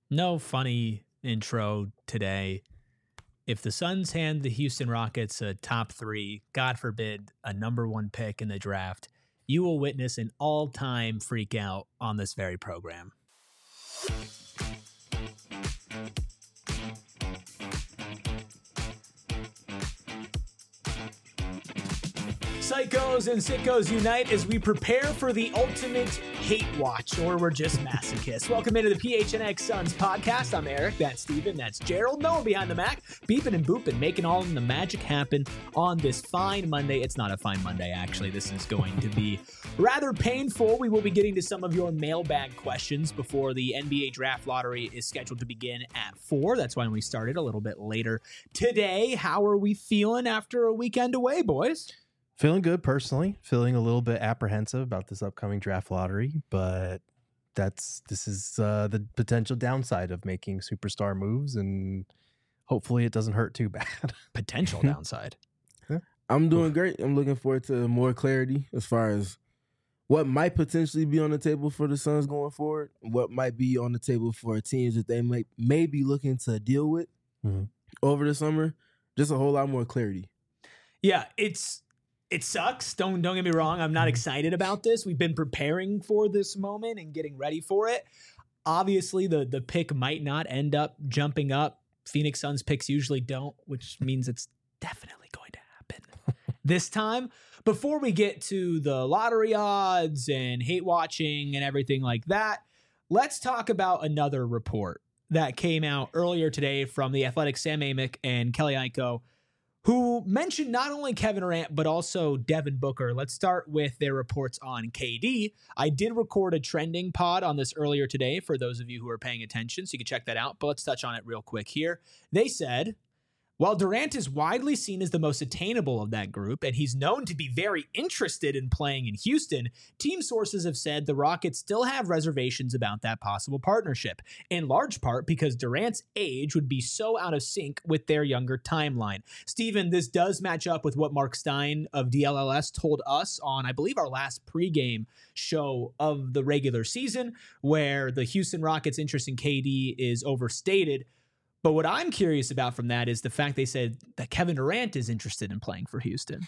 No funny intro today. If the Suns hand the Houston Rockets a top 3, God forbid, a number 1 pick in the draft, you will witness an all-time freak out on this very program. Psychos and sickos unite as we prepare for the ultimate hate watch, or we're just masochists. Welcome into the PHNX Suns podcast. I'm Eric, that's Steven, that's Gerald, no one behind the Mac, beeping and booping, making all the magic happen on this fine Monday. It's not a fine Monday, actually. This is going to be rather painful. We will be getting to some of your mailbag questions before the NBA draft lottery is scheduled to begin at 4. That's why we started a little bit later today. How are we feeling after a weekend away, boys? Feeling good personally, feeling a little bit apprehensive about this upcoming draft lottery, but this is the potential downside of making superstar moves, and hopefully it doesn't hurt too bad. Potential downside. I'm doing great. I'm looking forward to more clarity as far as what might potentially be on the table for the Suns going forward, what might be on the table for teams that they may be looking to deal with over the summer. Just a whole lot more clarity. Yeah, it sucks. Don't get me wrong. I'm not excited about this. We've been preparing for this moment and getting ready for it. Obviously, the pick might not end up jumping up. Phoenix Suns picks usually don't, which means it's definitely going to happen this time. Before we get to the lottery odds and hate watching and everything like that, let's talk about another report that came out earlier today from The Athletic, Sam Amick and Kelly Iko, who mentioned not only Kevin Durant, but also Devin Booker. Let's start with their reports on KD. I did record a trending pod on this earlier today for those of you who are paying attention, so you can check that out, but let's touch on it real quick here. They said, while Durant is widely seen as the most attainable of that group, and he's known to be very interested in playing in Houston, team sources have said the Rockets still have reservations about that possible partnership, in large part because Durant's age would be so out of sync with their younger timeline. Steven, this does match up with what Mark Stein of DLLS told us on, I believe, our last pregame show of the regular season, where the Houston Rockets' interest in KD is overstated. But what I'm curious about from that is the fact they said that Kevin Durant is interested in playing for Houston.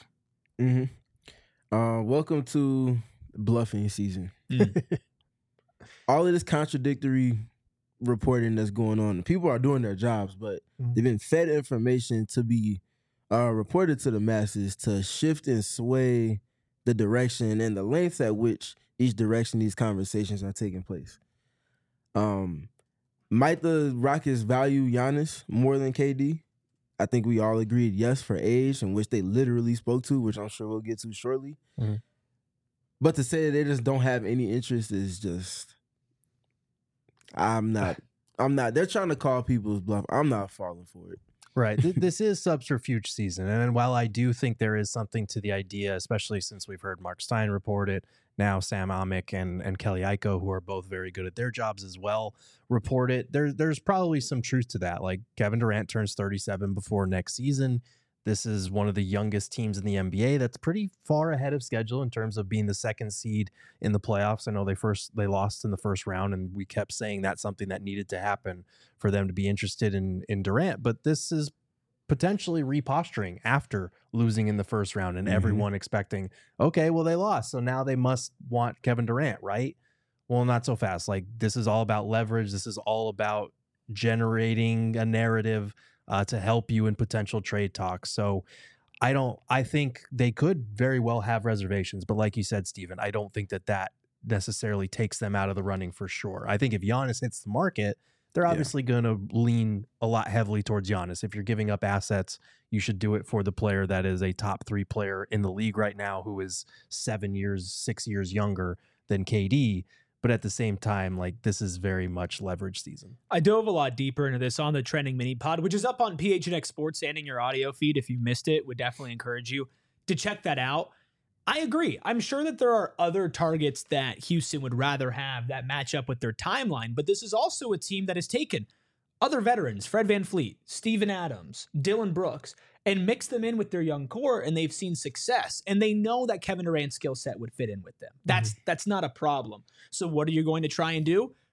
Welcome to bluffing season. All of this contradictory reporting that's going on. People are doing their jobs, but they've been fed information to be reported to the masses to shift and sway the direction and the lengths at which each direction these conversations are taking place. Might the Rockets value Giannis more than KD? I think we all agreed yes for age, in which they literally spoke to, which I'm sure we'll get to shortly. But to say that they just don't have any interest is just, I'm not. They're trying to call people's bluff. I'm not falling for it. Right. This is subterfuge season. And while I do think there is something to the idea, especially since we've heard Mark Stein report it, now Sam Amick and Kelly Iko, who are both very good at their jobs as well, report it. There's probably some truth to that. Like, Kevin Durant turns 37 before next season. This is one of the youngest teams in the NBA that's pretty far ahead of schedule in terms of being the second seed in the playoffs. I know they lost in the first round, and we kept saying that's something that needed to happen for them to be interested in Durant. But this is potentially reposturing after losing in the first round and everyone expecting, okay, well, they lost, so now they must want Kevin Durant, right? Well, not so fast. Like, this is all about leverage. This is all about generating a narrative to help you in potential trade talks. So I think they could very well have reservations, but like you said, Steven, I don't think that necessarily takes them out of the running for sure. I think if Giannis hits the market, they're obviously going to lean a lot heavily towards Giannis. If you're giving up assets, you should do it for the player that is a top 3 player in the league right now, who is 6 years younger than KD. But at the same time, like, this is very much leverage season. I dove a lot deeper into this on the Trending Mini Pod, which is up on PHNX Sports and in your audio feed. If you missed it, would definitely encourage you to check that out. I agree. I'm sure that there are other targets that Houston would rather have that match up with their timeline, but this is also a team that has taken other veterans, Fred VanVleet, Steven Adams, Dylan Brooks, and mix them in with their young core, and they've seen success. And they know that Kevin Durant's skill set would fit in with them. That's not a problem. So what are you going to try and do?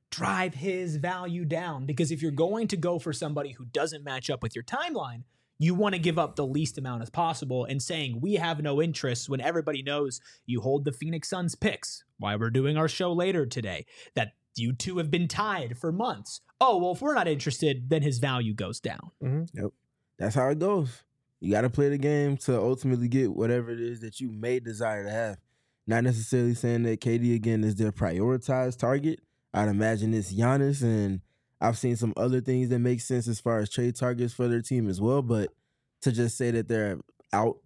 drive his value down. Because if you're going to go for somebody who doesn't match up with your timeline, you want to give up the least amount as possible. And saying we have no interest when everybody knows you hold the Phoenix Suns picks, why we're doing our show later today, that you two have been tied for months. Oh, well, if we're not interested, then his value goes down. Yep. That's how it goes. You got to play the game to ultimately get whatever it is that you may desire to have. Not necessarily saying that KD, again, is their prioritized target. I'd imagine it's Giannis, and I've seen some other things that make sense as far as trade targets for their team as well. But to just say that they're out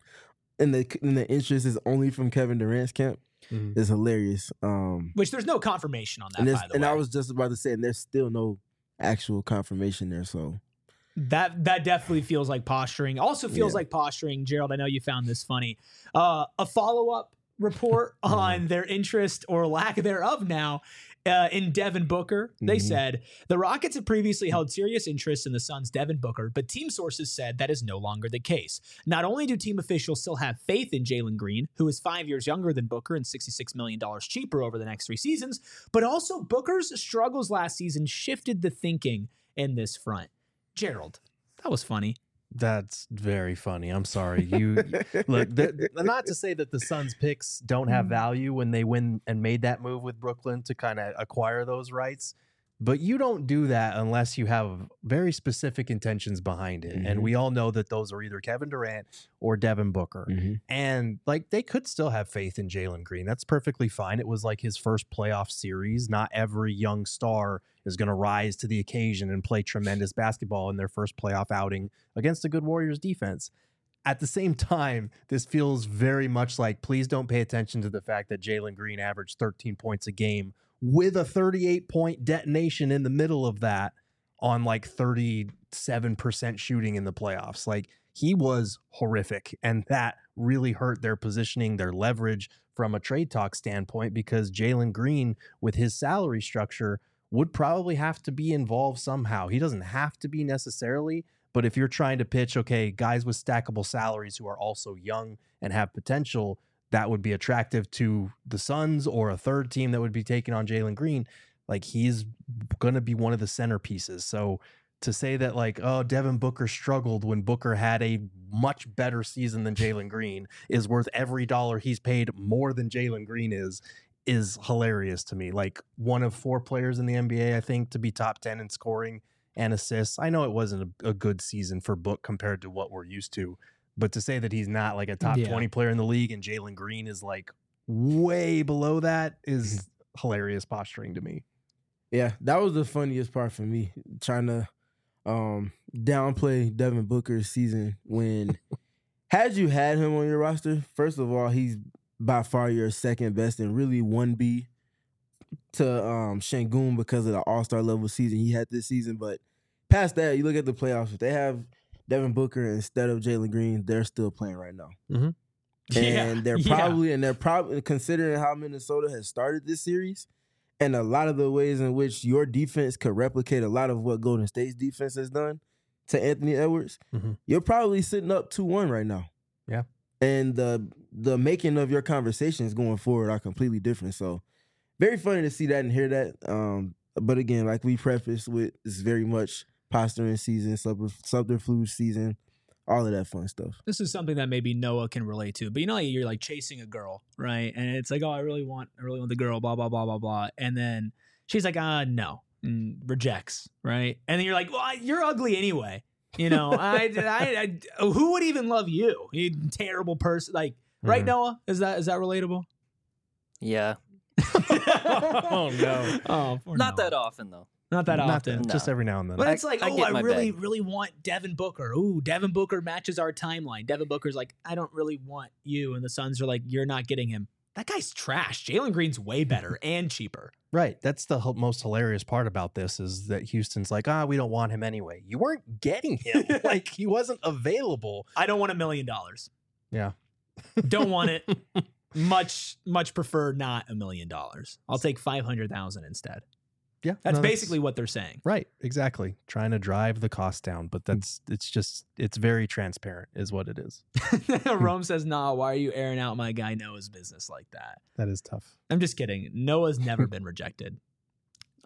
and the interest is only from Kevin Durant's camp is hilarious. Which there's no confirmation on that, by the way. And I was just about to say, and there's still no actual confirmation there. So that definitely feels like posturing. Also feels like posturing, Gerald. I know you found this funny. A follow-up report on their interest or lack thereof now in Devin Booker. They said the Rockets have previously held serious interest in the Suns' Devin Booker, but team sources said that is no longer the case. Not only do team officials still have faith in Jalen Green, who is 5 years younger than Booker and $66 million cheaper over the next 3 seasons, but also Booker's struggles last season shifted the thinking in this front. Gerald, that was funny. That's very funny. I'm sorry. You look, not to say that the Suns picks don't have value when they win and made that move with Brooklyn to kind of acquire those rights, but you don't do that unless you have very specific intentions behind it. And we all know that those are either Kevin Durant or Devin Booker. And like they could still have faith in Jalen Green. That's perfectly fine. It was like his first playoff series. Not every young star is going to rise to the occasion and play tremendous basketball in their first playoff outing against a good Warriors defense. At the same time, this feels very much like, please don't pay attention to the fact that Jalen Green averaged 13 points a game with a 38-point detonation in the middle of that on like 37% shooting in the playoffs. Like he was horrific, and that really hurt their positioning, their leverage from a trade talk standpoint, because Jalen Green with his salary structure would probably have to be involved somehow. He doesn't have to be necessarily, but if you're trying to pitch, okay, guys with stackable salaries who are also young and have potential, that would be attractive to the Suns or a third team that would be taking on Jalen Green. Like he's going to be one of the centerpieces. So to say that like, oh, Devin Booker struggled when Booker had a much better season than Jalen Green is worth every dollar he's paid more than Jalen Green is hilarious to me. Like one of 4 players in the NBA, I think, to be top 10 in scoring and assists. I know it wasn't a good season for Book compared to what we're used to, but to say that he's not like a top 20 player in the league and Jalen Green is like way below that is hilarious posturing to me. Yeah, that was the funniest part for me, trying to downplay Devin Booker's season when had you had him on your roster, first of all, he's by far your second best and really 1B to Şengün because of the all-star level season he had this season. But past that, you look at the playoffs, if they have Devin Booker instead of Jalen Green, they're still playing right now. And they're probably considering how Minnesota has started this series and a lot of the ways in which your defense could replicate a lot of what Golden State's defense has done to Anthony Edwards, you're probably sitting up 2-1 right now. Yeah. And the making of your conversations going forward are completely different. So very funny to see that and hear that. But again, like we prefaced with, it's very much posturing season, subterfuge season, all of that fun stuff. This is something that maybe Noah can relate to. But you know, you're like chasing a girl, right? And it's like, oh, I really want the girl, blah, blah, blah, blah, blah. And then she's like, no, and rejects, right? And then you're like, well, you're ugly anyway. You know, I who would even love you? You terrible person. Like, right, Noah? Is that relatable? Yeah. Oh no. Oh, not that often though. Not that often. No. Just every now and then. But it's like, I really, bag. really want Devin Booker. Ooh, Devin Booker matches our timeline. Devin Booker's like, I don't really want you. And the Suns are like, you're not getting him. That guy's trash. Jalen Green's way better and cheaper. Right. That's the most hilarious part about this is that Houston's like, we don't want him anyway. You weren't getting him. Like, he wasn't available. I don't want $1 million. Yeah. Don't want it. Much prefer not $1 million. I'll take 500,000 instead. Yeah. That's basically what they're saying. Right. Exactly. Trying to drive the cost down, but it's very transparent is what it is. Rome says, nah, why are you airing out my guy Noah's business like that? That is tough. I'm just kidding. Noah's never been rejected.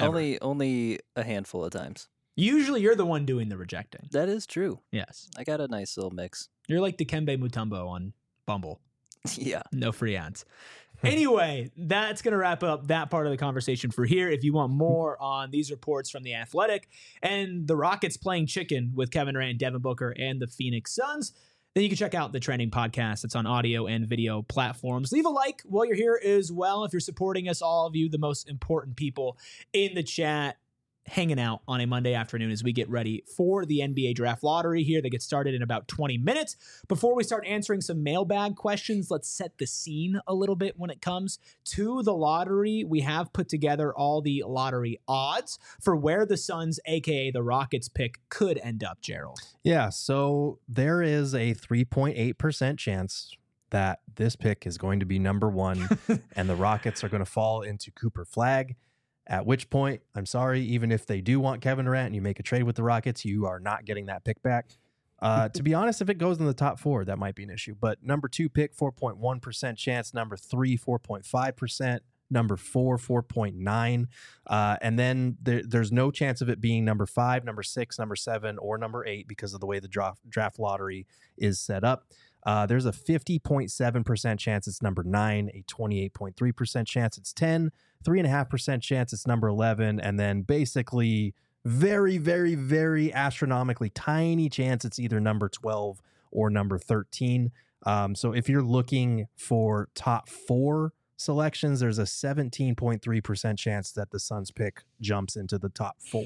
Ever. Only a handful of times. Usually you're the one doing the rejecting. That is true. Yes. I got a nice little mix. You're like Dikembe Mutombo on Bumble. Yeah. No free ads. Anyway, that's going to wrap up that part of the conversation for here. If you want more on these reports from The Athletic and the Rockets playing chicken with Kevin Durant, Devin Booker, and the Phoenix Suns, then you can check out the Trending Podcast. It's on audio and video platforms. Leave a like while you're here as well. If you're supporting us, all of you, the most important people in the chat, hanging out on a Monday afternoon as we get ready for the NBA draft lottery here that gets started in about 20 minutes. Before we start answering some mailbag questions, let's set the scene a little bit when it comes to the lottery. We have put together all the lottery odds for where the Suns, aka the Rockets pick, could end up, Gerald. Yeah, so there is a 3.8% chance that this pick is going to be number 1 and the Rockets are going to fall into Cooper Flagg. At which point, I'm sorry, even if they do want Kevin Durant and you make a trade with the Rockets, you are not getting that pick back. To be honest, if it goes in the top 4, that might be an issue. But number 2 pick, 4.1% chance. Number 3, 4.5%. Number 4, 4.9. And then there's no chance of it being number 5, number 6, number 7, or number 8 because of the way the draft lottery is set up. There's a 50.7% chance it's number 9, a 28.3% chance it's 10, 3.5% chance it's number 11, and then basically very, very, very astronomically tiny chance it's either number 12 or number 13. So if you're looking for top 4 selections, there's a 17.3% chance that the Suns pick jumps into the top 4.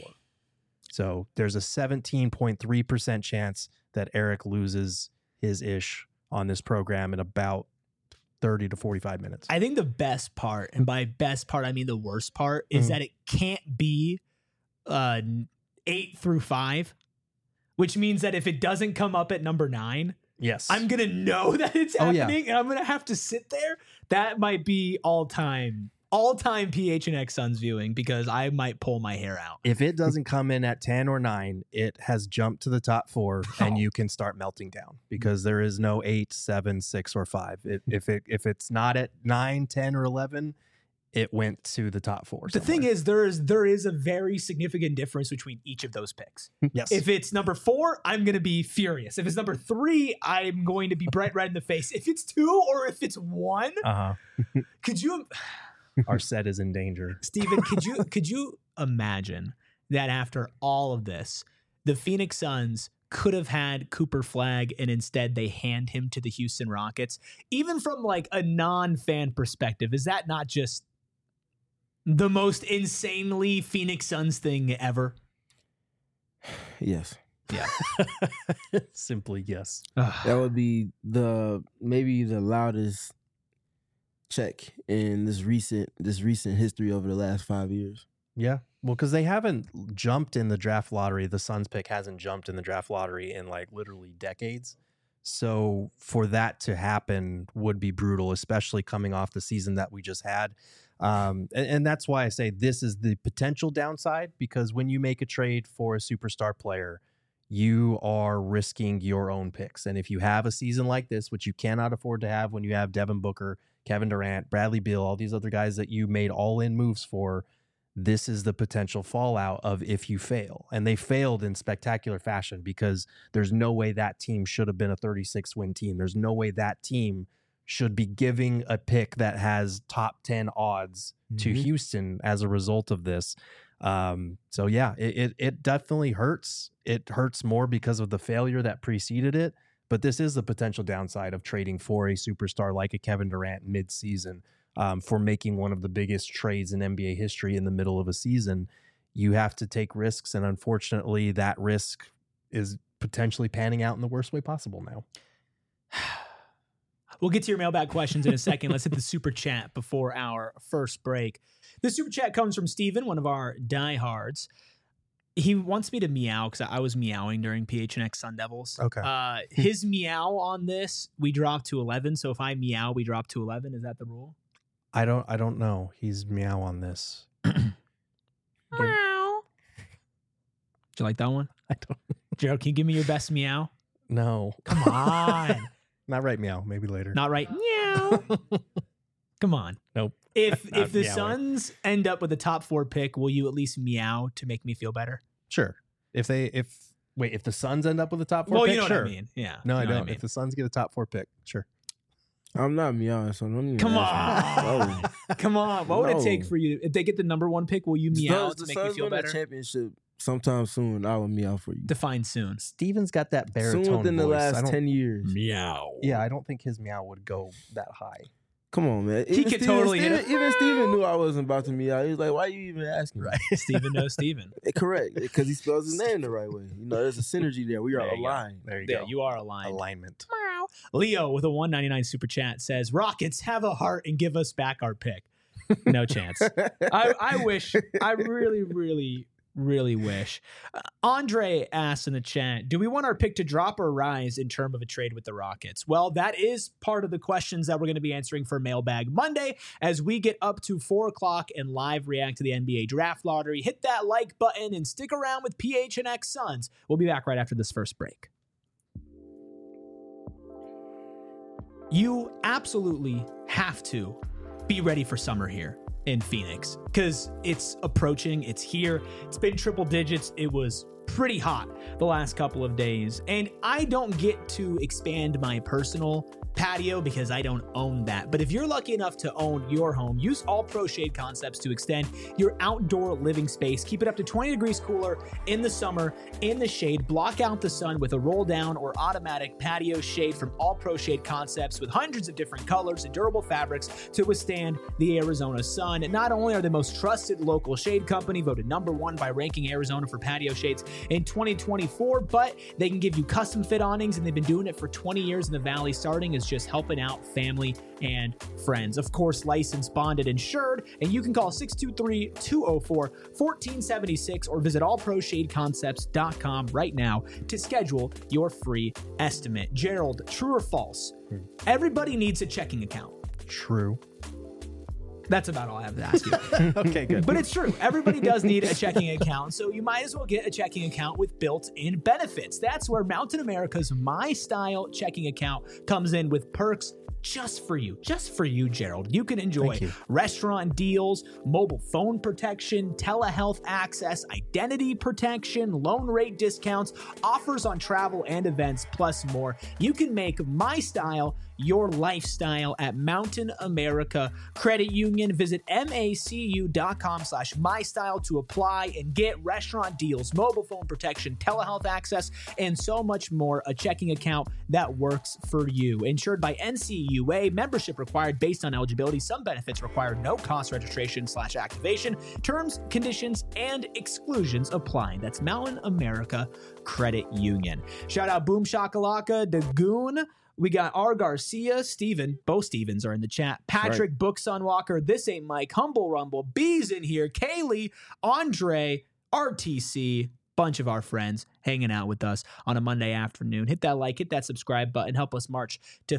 So there's a 17.3% chance that Eric loses his ish on this program in about 30 to 45 minutes. I think the best part, and by best part, I mean the worst part, is that it can't be 8 through 5, which means that if it doesn't come up at number 9, yes, I'm going to know that it's happening and I'm going to have to sit there. That might be all-time PHNX Suns viewing because I might pull my hair out. If it doesn't come in at 10 or 9, it has jumped to the top 4 and you can start melting down because there is no 8, 7, 6, or 5. If it's not at 9, 10, or 11, it went to the top 4. The thing is, there is a very significant difference between each of those picks. Yes. If it's number 4, I'm going to be furious. If it's number 3, I'm going to be bright red in the face. If it's 2 or if it's 1, could you... Our set is in danger. Steven, could you imagine that after all of this, the Phoenix Suns could have had Cooper Flagg and instead they hand him to the Houston Rockets? Even from like a non-fan perspective, is that not just the most insanely Phoenix Suns thing ever? Yes. Yeah. Simply yes. That would be maybe the loudest check in this recent history over the last 5 years. Yeah. Well, because they haven't jumped in the draft lottery. The Suns pick hasn't jumped in the draft lottery in like literally decades. So for that to happen would be brutal, especially coming off the season that we just had. And that's why I say this is the potential downside, because when you make a trade for a superstar player, you are risking your own picks. And if you have a season like this, which you cannot afford to have when you have Devin Booker, Kevin Durant, Bradley Beal, all these other guys that you made all-in moves for, this is the potential fallout of if you fail. And they failed in spectacular fashion because there's no way that team should have been a 36-win team. There's no way that team should be giving a pick that has top 10 odds to Houston as a result of this. So yeah, it definitely hurts. It hurts more because of the failure that preceded it. But this is the potential downside of trading for a superstar like a Kevin Durant mid-season, for making one of the biggest trades in NBA history in the middle of a season. You have to take risks, and unfortunately, that risk is potentially panning out in the worst way possible now. We'll get to your mailbag questions in a second. Let's hit the super chat before our first break. The super chat comes from Steven, one of our diehards. He wants me to meow because I was meowing during PHNX Sun Devils. Okay. His meow on this, we dropped to 11. So if I meow, we drop to 11. Is that the rule? I don't know. He's meow on this. Meow. Did you like that one? I don't. Gerald, can you give me your best meow? No. Come on. Not right meow. Maybe later. Not right. Meow. Come on. Nope. If Not the meowing. Suns end up with a top 4 pick, will you at least meow to make me feel better? Sure. If the Suns end up with a top 4 Well, pick, you know sure. what I mean. Yeah. No, I You know what don't. mean. If the Suns get a top 4 pick, sure. I'm not meowing, so don't even Come ask me. on. No. Come on. What would it take No. for you? If they get the number 1 pick, will you meow The to make me Suns feel win a better? championship sometime soon. I will meow for you. Define soon. Steven's got that baritone Soon within the voice. I last don't- 10 years. Meow. Yeah, I don't think his meow would go that high. Come on, man. He could totally hit it. Even Steven knew I wasn't about to meow. He was like, why you even asking? Right. Steven knows Steven. Correct. Because he spells his name the right way. You know, there's a synergy there. We are There you go. aligned. There you Yeah, go. you are aligned. Alignment. Leo with a 199 super chat says, Rockets, have a heart and give us back our pick. No chance. I wish. I really, really, really wish. Andre asked in the chat, do we want our pick to drop or rise in terms of a trade with the Rockets? Well, that is part of the questions that we're going to be answering for Mailbag Monday as we get up to 4 o'clock and live react to the NBA draft lottery. Hit that like button and stick around with PHNX Suns. We'll be back right after this first break. You absolutely have to be ready for summer here in Phoenix because it's approaching. It's here. It's been triple digits. It was pretty hot the last couple of days. And I don't get to expand my personal patio because I don't own that. But if you're lucky enough to own your home, use All Pro Shade Concepts to extend your outdoor living space. Keep it up to 20 degrees cooler in the summer in the shade. Block out the sun with a roll down or automatic patio shade from All Pro Shade Concepts with hundreds of different colors and durable fabrics to withstand the Arizona sun. And not only are they the most trusted local shade company, voted #1 by Ranking Arizona for patio shades in 2024, but they can give you custom fit awnings, and they've been doing it for 20 years in the Valley, starting as just helping out family and friends. Of course, licensed, bonded, insured, and you can call 623-204-1476 or visit allproshadeconcepts.com right now to schedule your free estimate. Gerald, true or false? Everybody needs a checking account. True. That's about all I have to ask you. Okay, good. But it's true. Everybody does need a checking account, so you might as well get a checking account with built-in benefits. That's where Mountain America's My Style checking account comes in with perks just for you, Gerald. You can enjoy Thank you. restaurant deals, mobile phone protection, telehealth access, identity protection, loan rate discounts, offers on travel and events, plus more. You can make My Style your lifestyle at Mountain America Credit Union. Visit macu.com/mystyle to apply and get restaurant deals, mobile phone protection, telehealth access, and so much more. A checking account that works for you. Insured by NCUA, membership required based on eligibility. Some benefits require no cost registration/activation. Terms, conditions, and exclusions apply. That's Mountain America Credit Union. Shout out Boom Shakalaka, Dagoon. We got R. Garcia, Steven, both Stevens are in the chat. Patrick, Bookson Walker, This Ain't Mike, Humble Rumble, B's in here, Kaylee, Andre, RTC, bunch of our friends hanging out with us on a Monday afternoon. Hit that like, hit that subscribe button, help us march to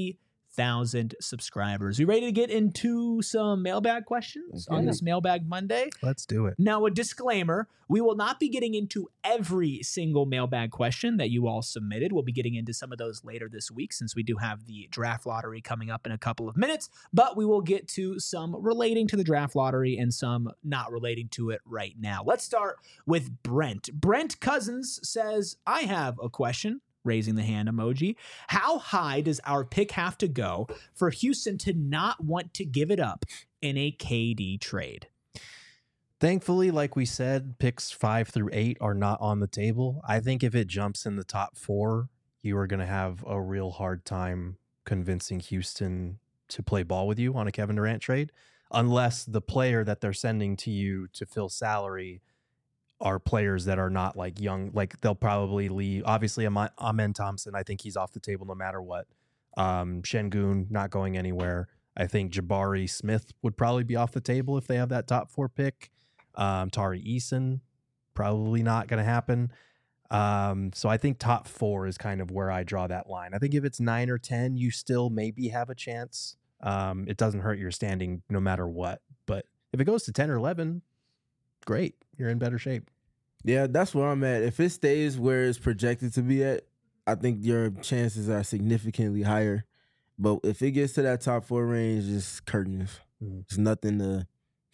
50,000 subscribers. We ready to get into some mailbag questions on this Mailbag Monday? Let's do it. Now, a disclaimer, we will not be getting into every single mailbag question that you all submitted. We'll be getting into some of those later this week since we do have the draft lottery coming up in a couple of minutes, but we will get to some relating to the draft lottery and some not relating to it right now. Let's start with Brent. Brent Cousins says, I have a question. Raising the hand emoji. How high does our pick have to go for Houston to not want to give it up in a KD trade? Thankfully, like we said, picks 5 through 8 are not on the table. I think if it jumps in the top 4, you are going to have a real hard time convincing Houston to play ball with you on a Kevin Durant trade, unless the player that they're sending to you to fill salary are players that are not like young. Like they'll probably leave. Obviously, Amen Thompson, I think he's off the table no matter what. Şengün not going anywhere. I think Jabari Smith would probably be off the table if they have that top 4 pick. Tari Eason, probably not going to happen. So I think top 4 is kind of where I draw that line. I think if it's 9 or 10, you still maybe have a chance. It doesn't hurt your standing no matter what. But if it goes to 10 or 11, great. You're in better shape. Yeah, that's where I'm at. If it stays where it's projected to be at, I think your chances are significantly higher. But if it gets to that top 4 range, it's curtains. Mhm. It's nothing to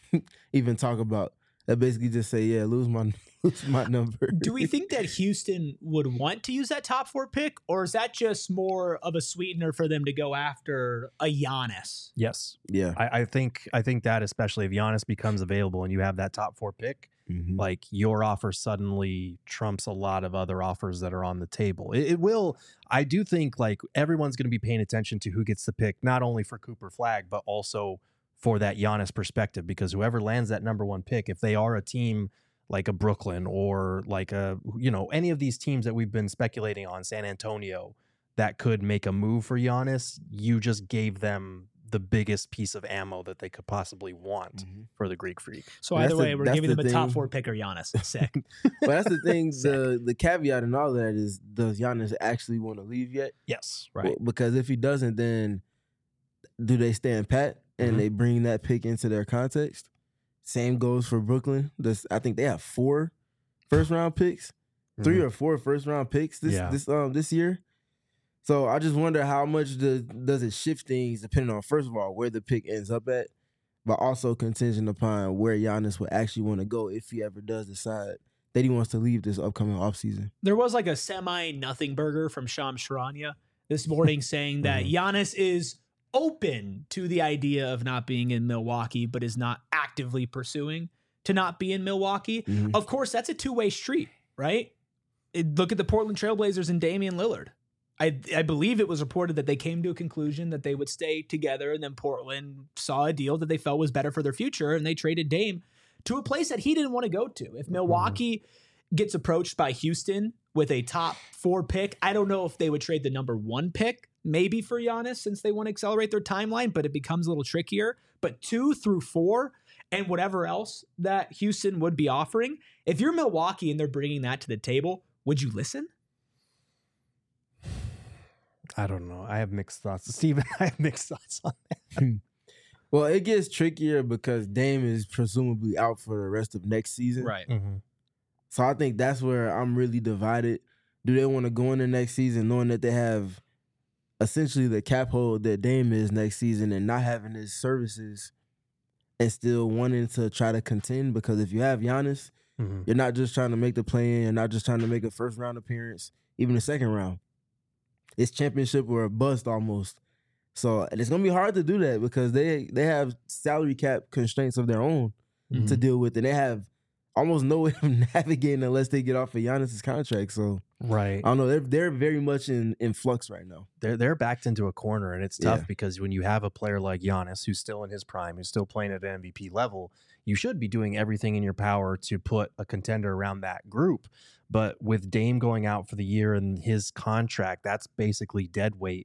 even talk about. That basically just say, yeah, lose my number. Do we think that Houston would want to use that top 4 pick, or is that just more of a sweetener for them to go after a Giannis? Yes. Yeah. I think that, especially if Giannis becomes available and you have that top 4 pick, Mhm. like your offer suddenly trumps a lot of other offers that are on the table. It will. I do think like everyone's going to be paying attention to who gets the pick, not only for Cooper Flagg, but also for that Giannis perspective, because whoever lands that number 1 pick, if they are a team like a Brooklyn or like any of these teams that we've been speculating on, San Antonio, that could make a move for Giannis, you just gave them the biggest piece of ammo that they could possibly want for the Greek Freak. So Well, either that's way, the- we're that's giving the them a top thing. 4 pick or Giannis. Sick. But that's the thing. Sick. the caveat and all that is, does Giannis actually want to leave yet? Yes, Well, because if he doesn't, then do they stand pat and Mhm. they bring that pick into their context? Same goes for Brooklyn. I think they have 4 first-round picks, 3 or 4 first-round picks this year. So I just wonder how much does it shift things depending on, first of all, where the pick ends up at, but also contingent upon where Giannis would actually want to go if he ever does decide that he wants to leave this upcoming offseason. There was like a semi-nothing burger from Shams Charania this morning saying that Giannis is open to the idea of not being in Milwaukee, but is not actively pursuing to not be in Milwaukee. Mhm. Of course, that's a two-way street, right? Look at the Portland Trailblazers and Damian Lillard. I believe it was reported that they came to a conclusion that they would stay together, and then Portland saw a deal that they felt was better for their future, and they traded Dame to a place that he didn't want to go to. If Milwaukee gets approached by Houston with a top 4 pick, I don't know if they would trade the number 1 pick, maybe for Giannis, since they want to accelerate their timeline, but it becomes a little trickier. But 2 through 4 and whatever else that Houston would be offering, if you're Milwaukee and they're bringing that to the table, would you listen? I don't know. I have mixed thoughts. Steven, I have mixed thoughts on that. Well, it gets trickier because Dame is presumably out for the rest of next season. Right. So I think that's where I'm really divided. Do they want to go into next season knowing that they have essentially the cap hold that Dame is next season and not having his services and still wanting to try to contend? Because if you have Giannis, you're not just trying to make the play-in, you're not just trying to make a first-round appearance, even a second round. It's championship or a bust almost. So and it's going to be hard to do that because they have salary cap constraints of their own to deal with, and they have almost no way of navigating unless they get off of Giannis's contract. So Right. I don't know. They're very much in flux right now. They're backed into a corner, and it's tough Yeah. because when you have a player like Giannis who's still in his prime, who's still playing at an MVP level, you should be doing everything in your power to put a contender around that group. But with Dame going out for the year and his contract, that's basically dead weight.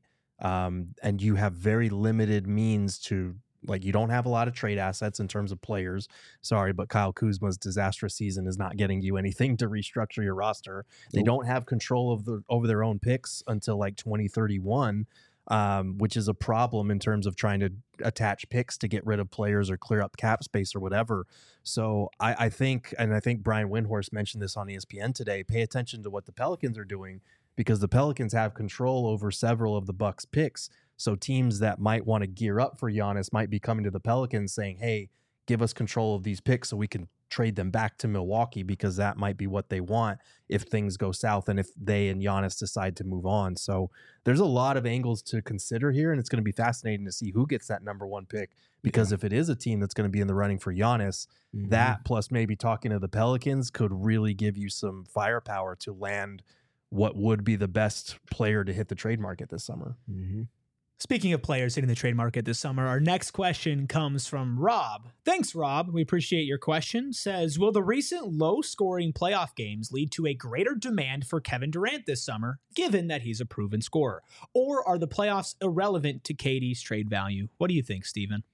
And you have very limited means to, like, you don't have a lot of trade assets in terms of players. Sorry, but Kyle Kuzma's disastrous season is not getting you anything to restructure your roster. They don't have control of over their own picks until like 2031, which is a problem in terms of trying to attach picks to get rid of players or clear up cap space or whatever. So I think Brian Windhorst mentioned this on ESPN today, pay attention to what the Pelicans are doing, because the Pelicans have control over several of the Bucks picks. So teams that might want to gear up for Giannis might be coming to the Pelicans saying, hey, give us control of these picks so we can trade them back to Milwaukee, because that might be what they want if things go south and if they and Giannis decide to move on. So there's a lot of angles to consider here, and it's going to be fascinating to see who gets that number 1 pick, because if it is a team that's going to be in the running for Giannis, that plus maybe talking to the Pelicans could really give you some firepower to land what would be the best player to hit the trade market this summer. Speaking of players hitting the trade market this summer, our next question comes from Rob. Thanks, Rob. We appreciate your question. Says, will the recent low-scoring playoff games lead to a greater demand for Kevin Durant this summer, given that he's a proven scorer? Or are the playoffs irrelevant to KD's trade value? What do you think, Steven?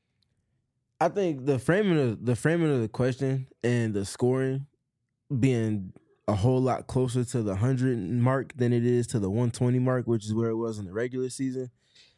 I think the framing of the question and the scoring being a whole lot closer to the 100 mark than it is to the 120 mark, which is where it was in the regular season.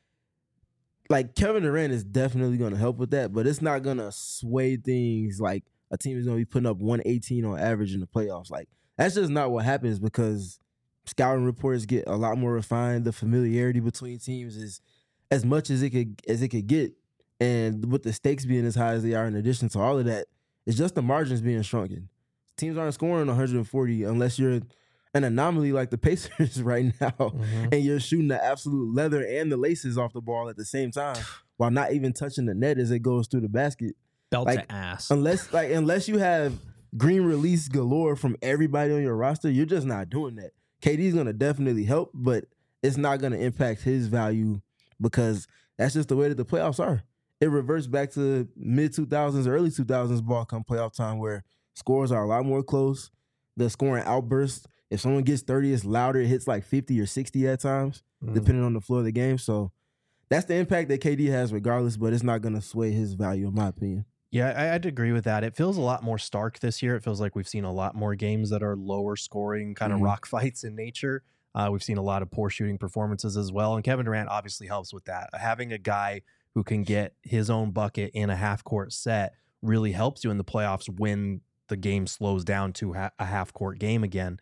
Like, Kevin Durant is definitely going to help with that, but it's not going to sway things like a team is going to be putting up 118 on average in the playoffs. Like, that's just not what happens, because scouting reports get a lot more refined. The familiarity between teams is as much as it could get. And with the stakes being as high as they are, in addition to all of that, it's just the margins being shrunken. Teams aren't scoring 140 unless you're an anomaly like the Pacers right now, and you're shooting the absolute leather and the laces off the ball at the same time while not even touching the net as it goes through the basket. Belt Like, to ass. Unless you have green release galore from everybody on your roster, you're just not doing that. KD's going to definitely help, but it's not going to impact his value because that's just the way that the playoffs are. It reverts back to mid-2000s, early 2000s ball come playoff time where scores are a lot more close. The scoring outbursts, if someone gets 30, it's louder. It hits like 50 or 60 at times, depending on the floor of the game. So that's the impact that KD has regardless, but it's not going to sway his value, in my opinion. Yeah, I'd agree with that. It feels a lot more stark this year. It feels like we've seen a lot more games that are lower scoring, kind of rock fights in nature. We've seen a lot of poor shooting performances as well. And Kevin Durant obviously helps with that. Having a guy who can get his own bucket in a half-court set really helps you in the playoffs when the game slows down to a half-court game again.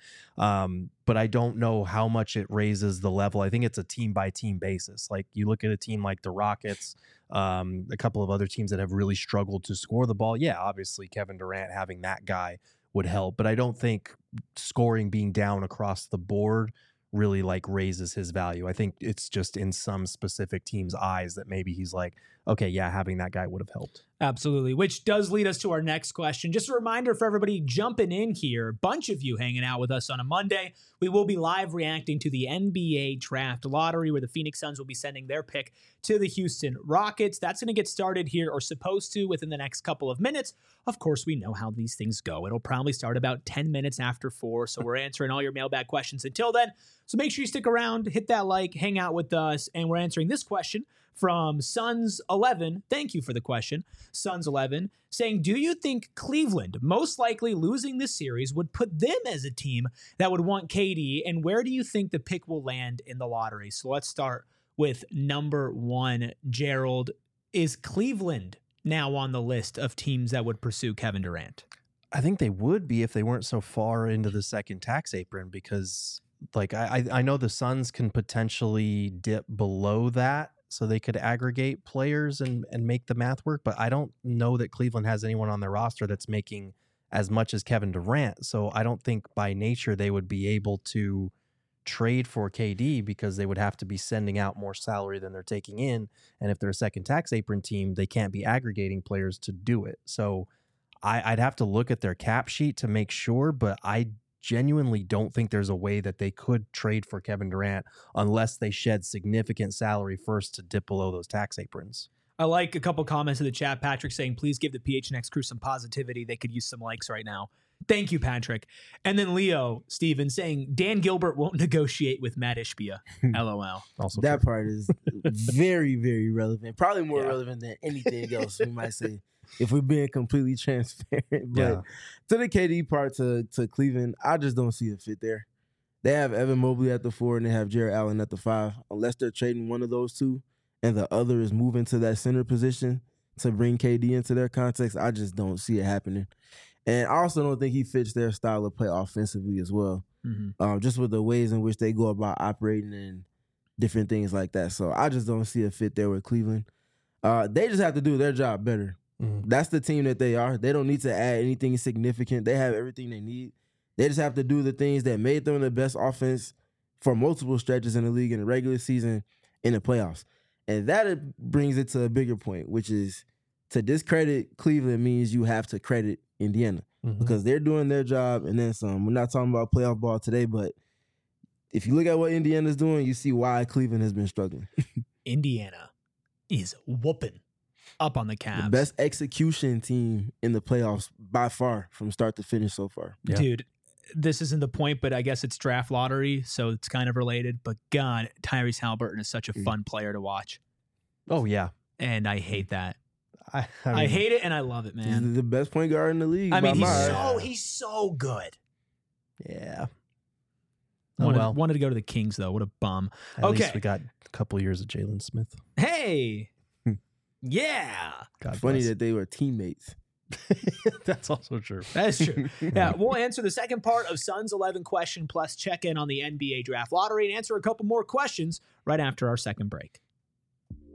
But I don't know how much it raises the level. I think it's a team-by-team basis. Like, you look at a team like the Rockets, a couple of other teams that have really struggled to score the ball. Yeah, obviously Kevin Durant having that guy would help. But I don't think scoring being down across the board really like raises his value. I think it's just in some specific team's eyes that maybe he's like, okay, yeah, having that guy would have helped. Absolutely, which does lead us to our next question. Just a reminder for everybody jumping in here, a bunch of you hanging out with us on a Monday. We will be live reacting to the NBA Draft Lottery where the Phoenix Suns will be sending their pick to the Houston Rockets. That's going to get started here, or supposed to, within the next couple of minutes. Of course, we know how these things go. It'll probably start about 10 minutes after 4, so we're answering all your mailbag questions until then. So make sure you stick around, hit that like, hang out with us, and we're answering this question from Suns11. Thank you for the question. Suns11 saying, do you think Cleveland most likely losing this series would put them as a team that would want KD, and where do you think the pick will land in the lottery? So let's start with number 1, Gerald. Is Cleveland now on the list of teams that would pursue Kevin Durant? I think they would be if they weren't so far into the second tax apron, because like I know the Suns can potentially dip below that so they could aggregate players and make the math work, but I don't know that Cleveland has anyone on their roster that's making as much as Kevin Durant. So I don't think by nature they would be able to trade for KD because they would have to be sending out more salary than they're taking in. And if they're a second tax apron team, they can't be aggregating players to do it. So I'd have to look at their cap sheet to make sure, but I genuinely don't think there's a way that they could trade for Kevin Durant unless they shed significant salary first to dip below those tax aprons. I like a couple comments in the chat. Patrick saying, please give the PHNX crew some positivity. They could use some likes right now. Thank you, Patrick. And then Leo Steven saying, Dan Gilbert won't negotiate with Matt Ishbia. LOL. Also that true. part is very, very relevant. Probably more relevant than anything else we might say if we're being completely transparent. But to the KD part, to Cleveland, I just don't see a fit there. They have Evan Mobley at the 4 and they have Jarrett Allen at the 5. Unless they're trading one of those two and the other is moving to that center position to bring KD into their context, I just don't see it happening. And I also don't think he fits their style of play offensively as well, just with the ways in which they go about operating and different things like that. So I just don't see a fit there with Cleveland. They just have to do their job better. That's the team that they are. They don't need to add anything significant. They have everything they need. They just have to do the things that made them the best offense for multiple stretches in the league in the regular season, in the playoffs. And that brings it to a bigger point, which is to discredit Cleveland means you have to credit Indiana because they're doing their job and then some. We're not talking about playoff ball today, but if you look at what Indiana's doing, you see why Cleveland has been struggling. Indiana is whooping up on the Cavs. The best execution team in the playoffs by far from start to finish so far. Yeah. Dude, this isn't the point, but I guess it's draft lottery, so it's kind of related. But God, Tyrese Halliburton is such a fun player to watch. Oh, yeah. And I hate that. I hate it and I love it, man. He's the best point guard in the league. I mean, by he's so good. Yeah. Wanted to go to the Kings, though. What a bum. At least we got a couple of years of Jalen Smith. Hey. Yeah. God Funny bless. that they were teammates. That's also true. That is true. Yeah, we'll answer the second part of Suns 11 question plus check in on the NBA Draft Lottery and answer a couple more questions right after our second break.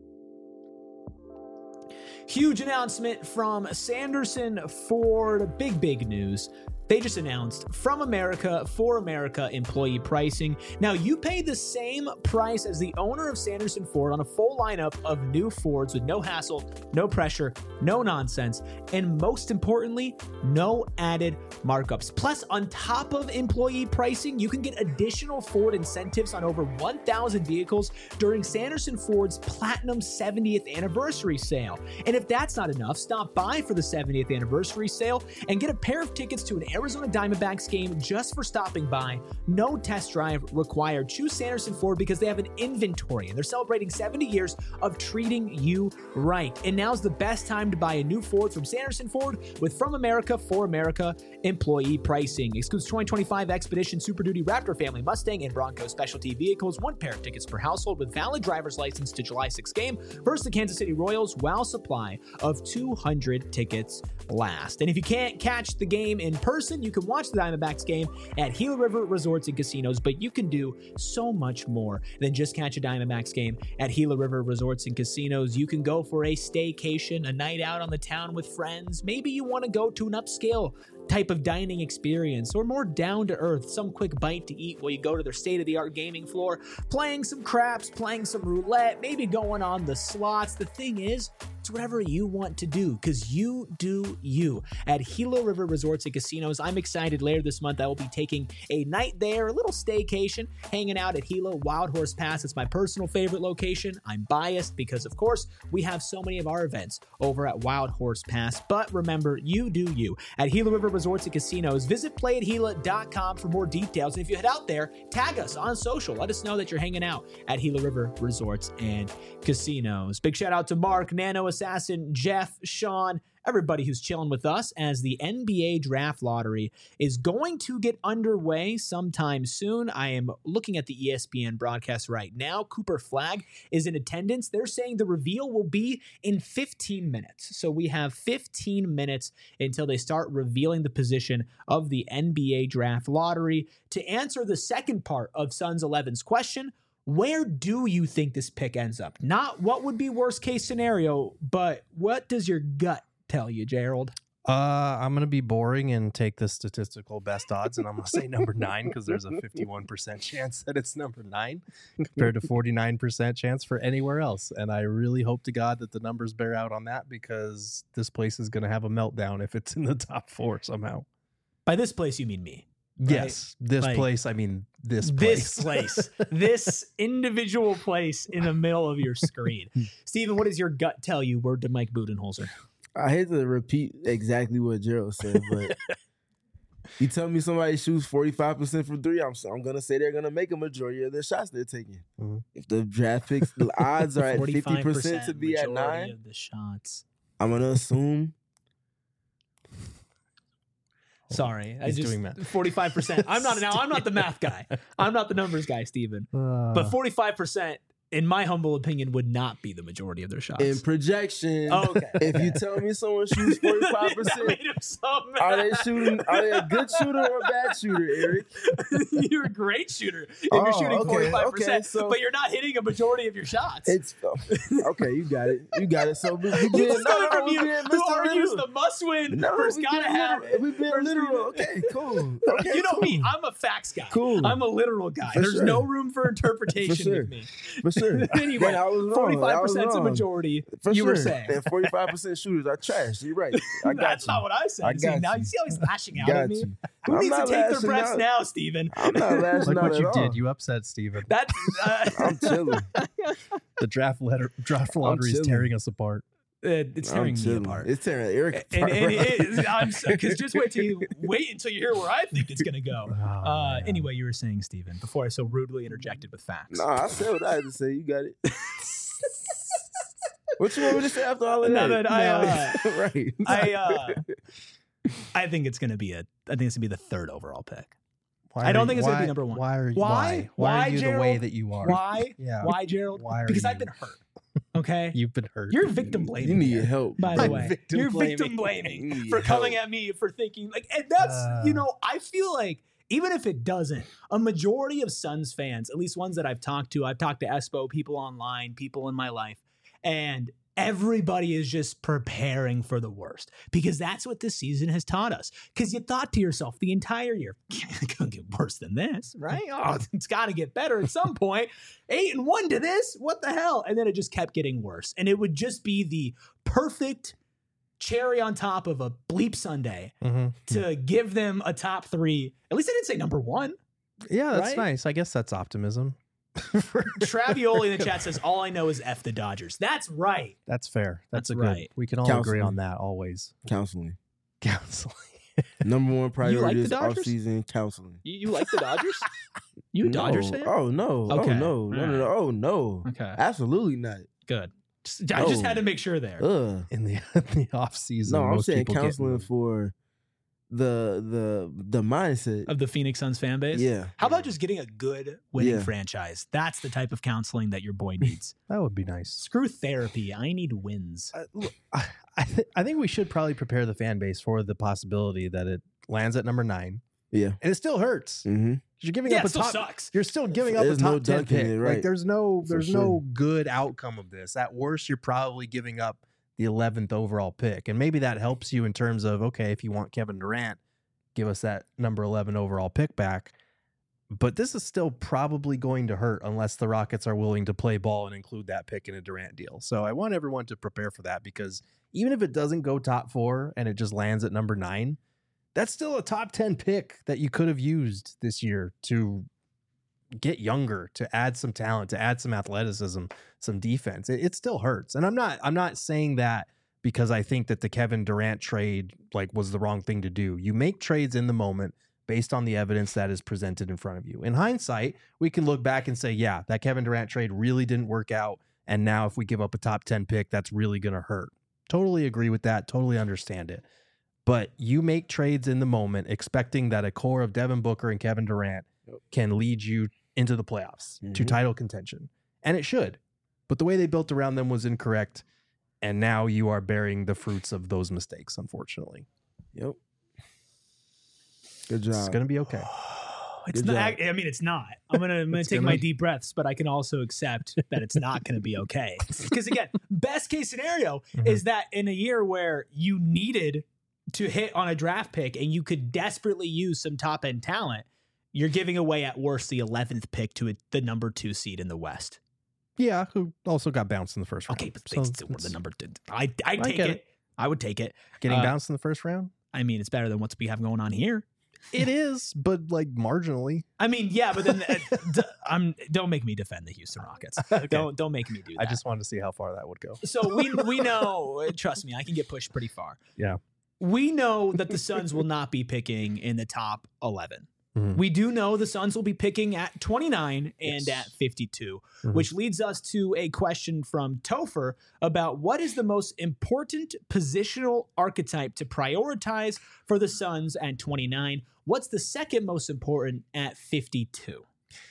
Huge announcement from Sanderson Ford. Big news. They just announced From America for America employee pricing. Now, you pay the same price as the owner of Sanderson Ford on a full lineup of new Fords with no hassle, no pressure, no nonsense, and most importantly, no added markups. Plus, on top of employee pricing, you can get additional Ford incentives on over 1,000 vehicles during Sanderson Ford's Platinum 70th Anniversary Sale. And if that's not enough, stop by for the 70th Anniversary Sale and get a pair of tickets to an Arizona Diamondbacks game just for stopping by. No test drive required. Choose Sanderson Ford because they have an inventory and they're celebrating 70 years of treating you right. And now's the best time to buy a new Ford from Sanderson Ford with From America for America employee pricing. Excludes 2025 Expedition, Super Duty, Raptor family, Mustang, and Bronco specialty vehicles. One pair of tickets per household with valid driver's license to July 6th game versus the Kansas City Royals while supply of 200 tickets last. And if you can't catch the game in person, you can watch the Diamondbacks game at Gila River Resorts and Casinos, but you can do so much more than just catch a Diamondbacks game at Gila River Resorts and Casinos. You can go for a staycation, a night out on the town with friends. Maybe you want to go to an upscale type of dining experience or more down to earth, some quick bite to eat while you go to their state-of-the-art gaming floor, playing some craps, playing some roulette, maybe going on the slots. The thing is, it's whatever you want to do because you do you at Gila River Resorts and Casinos. I'm excited. Later this month, I will be taking a night there, a little staycation, hanging out at Gila Wild Horse Pass. It's my personal favorite location. I'm biased because, of course, we have so many of our events over at Wild Horse Pass. But remember, you do you at Gila River Resorts and Casinos. Visit playatgila.com for more details. And if you head out there, tag us on social. Let us know that you're hanging out at Gila River Resorts and Casinos. Big shout out to Mark, Nano Assassin, Jeff, Sean, everybody who's chilling with us as the NBA Draft Lottery is going to get underway sometime soon. I am looking at the ESPN broadcast right now. Cooper Flagg is in attendance. They're saying the reveal will be in 15 minutes. So we have 15 minutes until they start revealing the position of the NBA Draft Lottery. To answer the second part of Suns 11's question, where do you think this pick ends up? Not what would be worst case scenario, but what does your gut tell you, Gerald? I'm going to be boring and take the statistical best odds, and I'm going to say number 9 because there's a 51% chance that it's number 9 compared to 49% chance for anywhere else. And I really hope to God that the numbers bear out on that because this place is going to have a meltdown if it's in the top 4 somehow. By this place, you mean me. Right? Yes, this place. I mean, this place. This individual place in the middle of your screen. Steven, what does your gut tell you? Word to Mike Budenholzer. I hate to repeat exactly what Gerald said, but you tell me somebody shoots 45% from 3, I'm going to say they're going to make a majority of their shots they're taking. Mm-hmm. If the draft picks, the odds are at 50% to be at 9, of the shots. I'm going to assume. Sorry, He's doing math. 45%. I'm not the math guy. I'm not the numbers guy, Steven. But 45%, in my humble opinion, would not be the majority of their shots. In projection, okay. If you tell me someone shoots 45%, are they a good shooter or a bad shooter, Eric? You're a great shooter if you're shooting 45%, but you're not hitting a majority of your shots. It's okay. You got it. So we being who argues the must-win versus gotta have it. We being literal. Okay, cool. Okay, you know me. I'm a facts guy. Cool. I'm a literal guy. There's no room for interpretation with me. For sure. Anyway, 45% is a majority. Were saying. And 45% shooters are trash. You're right. That's not what I said. Now you see how he's lashing out at me? Who needs to take their breaths now, Steven? I'm not lashing out at all. Look what you did. You upset Steven. I'm chilling. The draft lottery is tearing us apart. It's tearing me apart. It's tearing Eric apart. Because just wait until you hear where I think it's going to go. Anyway, you were saying, Steven, before I so rudely interjected with facts. No, I said what I had to say. You got it. What you want me to say after all of that? I think it's going to be the 3rd overall pick. I don't think it's going to be number 1. Why are you Gerald? the way that you are? Why? Yeah. Why, Gerald? Because I've been hurt. Okay, you've been hurt. You're victim blaming. You need help, by the way. You're victim blaming for coming at me for thinking and that's I feel like even if it doesn't, a majority of Suns fans, at least ones that I've talked to, Espo, people online, people in my life, and everybody is just preparing for the worst because that's what this season has taught us. Because you thought to yourself the entire year, it couldn't get worse than this, right? Oh, it's got to get better at some point. 8-1 to this, what the hell? And then it just kept getting worse. And it would just be the perfect cherry on top of a bleep Sunday to give them a top 3. At least I didn't say number 1. Yeah, that's right? nice. I guess that's optimism. Travioli in the chat says, all I know is F the Dodgers. That's right. That's fair. That's a right. good. We can all agree on that always. Counseling. Counseling. Number 1 priority is Dodgers? offseason counseling. You like the Dodgers? You a Dodgers fan? Oh, no. Okay. Oh, no. Oh, no. Okay. Absolutely not. Good. I just had to make sure there. In the off season. No, I'm most saying people get counseling moved. for the mindset. Of the Phoenix Suns fan base? Yeah. How about just getting a good winning Yeah. franchise? That's the type of counseling that your boy needs. That would be nice. Screw therapy. I need wins. I think we should probably prepare the fan base for the possibility that it lands at number 9, Yeah. and it still hurts. Mm-hmm. You're giving Yeah, up it a still top. sucks. You're still giving up There's a top no 10 dunking pick. it, Like right. there's no For no good outcome of this. At worst, you're probably giving up the 11th overall pick, and maybe that helps you in terms of okay, if you want Kevin Durant, give us that number 11 overall pick back. But this is still probably going to hurt unless the Rockets are willing to play ball and include that pick in a Durant deal. So I want everyone to prepare for that because even if it doesn't go top 4 and it just lands at number 9, that's still a top 10 pick that you could have used this year to get younger, to add some talent, to add some athleticism, some defense. It still hurts. And I'm not saying that because I think that the Kevin Durant trade was the wrong thing to do. You make trades in the moment based on the evidence that is presented in front of you. In hindsight, we can look back and say, yeah, that Kevin Durant trade really didn't work out. And now if we give up a top 10 pick, that's really going to hurt. Totally agree with that. Totally understand it. But you make trades in the moment expecting that a core of Devin Booker and Kevin Durant can lead you into the playoffs to title contention. And it should. But the way they built around them was incorrect. And now you are bearing the fruits of those mistakes, unfortunately. Yep. Good job. It's going to be okay. It's Good not. job. I mean, it's not. I'm gonna take my deep breaths, but I can also accept that it's not gonna be okay. Because again, best case scenario is that in a year where you needed to hit on a draft pick and you could desperately use some top end talent, you're giving away at worst the 11th pick to the number 2 seed in the West. Yeah, who also got bounced in the first round. Okay, but they still were the number 2. I'd take get it. I would take it. Getting bounced in the first round? I mean, it's better than what we have going on here. It is, but marginally. I mean, yeah, but then don't make me defend the Houston Rockets. Okay. Don't make me do that. I just wanted to see how far that would go. So we know, trust me, I can get pushed pretty far. Yeah. We know that the Suns will not be picking in the top 11. Mhm. We do know the Suns will be picking at 29 and Yes. at 52, Mhm. which leads us to a question from Topher about what is the most important positional archetype to prioritize for the Suns at 29? What's the second most important at 52?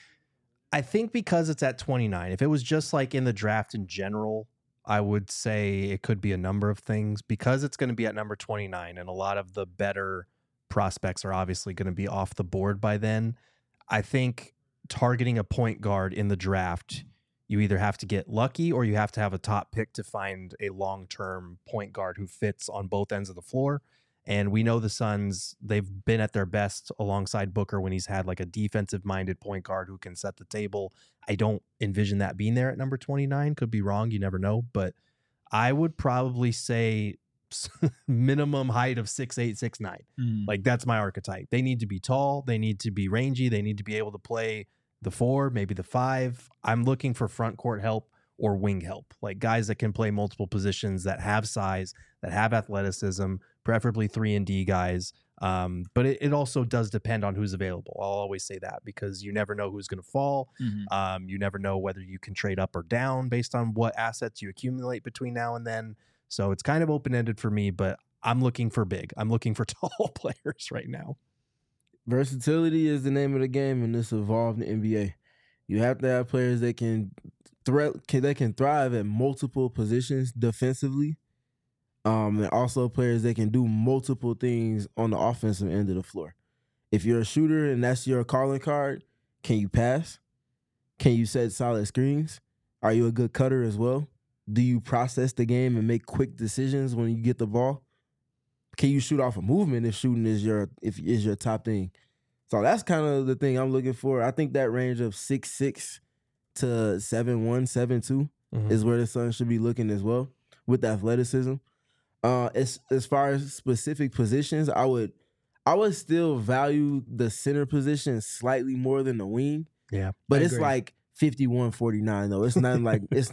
I think because it's at 29, if it was just in the draft in general, I would say it could be a number of things. Because it's going to be at number 29 and a lot of the better prospects are obviously going to be off the board by then. I think targeting a point guard in the draft, you either have to get lucky or you have to have a top pick to find a long-term point guard who fits on both ends of the floor. And we know the Suns, they've been at their best alongside Booker when he's had a defensive-minded point guard who can set the table. I don't envision that being there at number 29. Could be wrong. You never know. But I would probably say minimum height of 6'8", 6'9". That's my archetype. They need to be tall. They need to be rangy. They need to be able to play the 4, maybe the 5. I'm looking for front court help or wing help, guys that can play multiple positions, that have size, that have athleticism, preferably 3-and-D guys. But it also does depend on who's available. I'll always say that because you never know who's going to fall. You never know whether you can trade up or down based on what assets you accumulate between now and then. So it's kind of open-ended for me, but I'm looking for big. I'm looking for tall players right now. Versatility is the name of the game in this evolved NBA. You have to have players that can thrive at multiple positions defensively, and also players that can do multiple things on the offensive end of the floor. If you're a shooter and that's your calling card, can you pass? Can you set solid screens? Are you a good cutter as well? Do you process the game and make quick decisions when you get the ball? Can you shoot off a movement if shooting is your top thing? So that's kind of the thing I'm looking for. I think that range of 6'6" to 7'1", 7'2" is where the Suns should be looking as well with athleticism. As far as specific positions, I would still value the center position slightly more than the wing. Yeah, but it's like 51-49 though. It's not like there's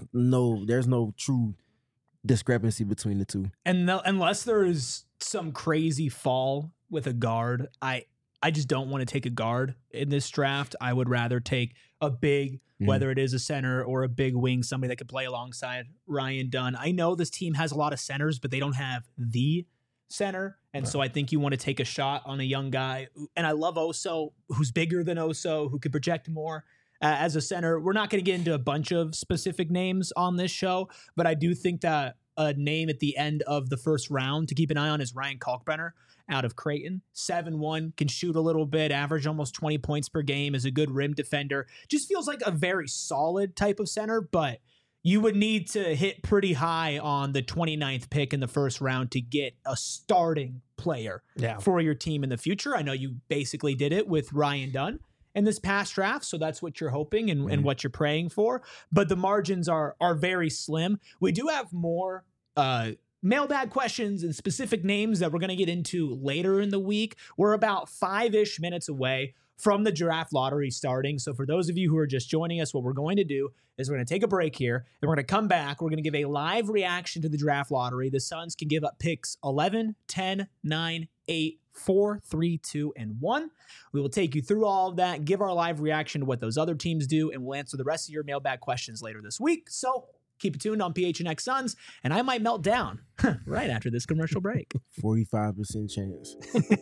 no true discrepancy between the two. And unless there is some crazy fall with a guard, I just don't want to take a guard in this draft. I would rather take a big, whether it is a center or a big wing, somebody that could play alongside Ryan Dunn. I know this team has a lot of centers, but they don't have the center. And so I think you want to take a shot on a young guy. And I love Oso, who's bigger than Oso, who could project more as a center. We're not going to get into a bunch of specific names on this show, but I do think that a name at the end of the first round to keep an eye on is Ryan Kalkbrenner out of Creighton. 7'1", can shoot a little bit, average almost 20 points per game, is a good rim defender. Just feels like a very solid type of center, but you would need to hit pretty high on the 29th pick in the first round to get a starting player for your team in the future. I know you basically did it with Ryan Dunn in this past draft, so that's what you're hoping and what you're praying for. But the margins are very slim. We do have more mailbag questions and specific names that we're going to get into later in the week. We're about 5-ish minutes away from the draft lottery starting. So for those of you who are just joining us, what we're going to do is we're going to take a break here, and we're going to come back. We're going to give a live reaction to the draft lottery. The Suns can give up picks 11, 10, 9, 8, 4, 3, 2, and 1. We will take you through all of that, give our live reaction to what those other teams do, and we'll answer the rest of your mailbag questions later this week. So keep it tuned on PHNX Suns, and I might melt down right after this commercial break. 45% chance.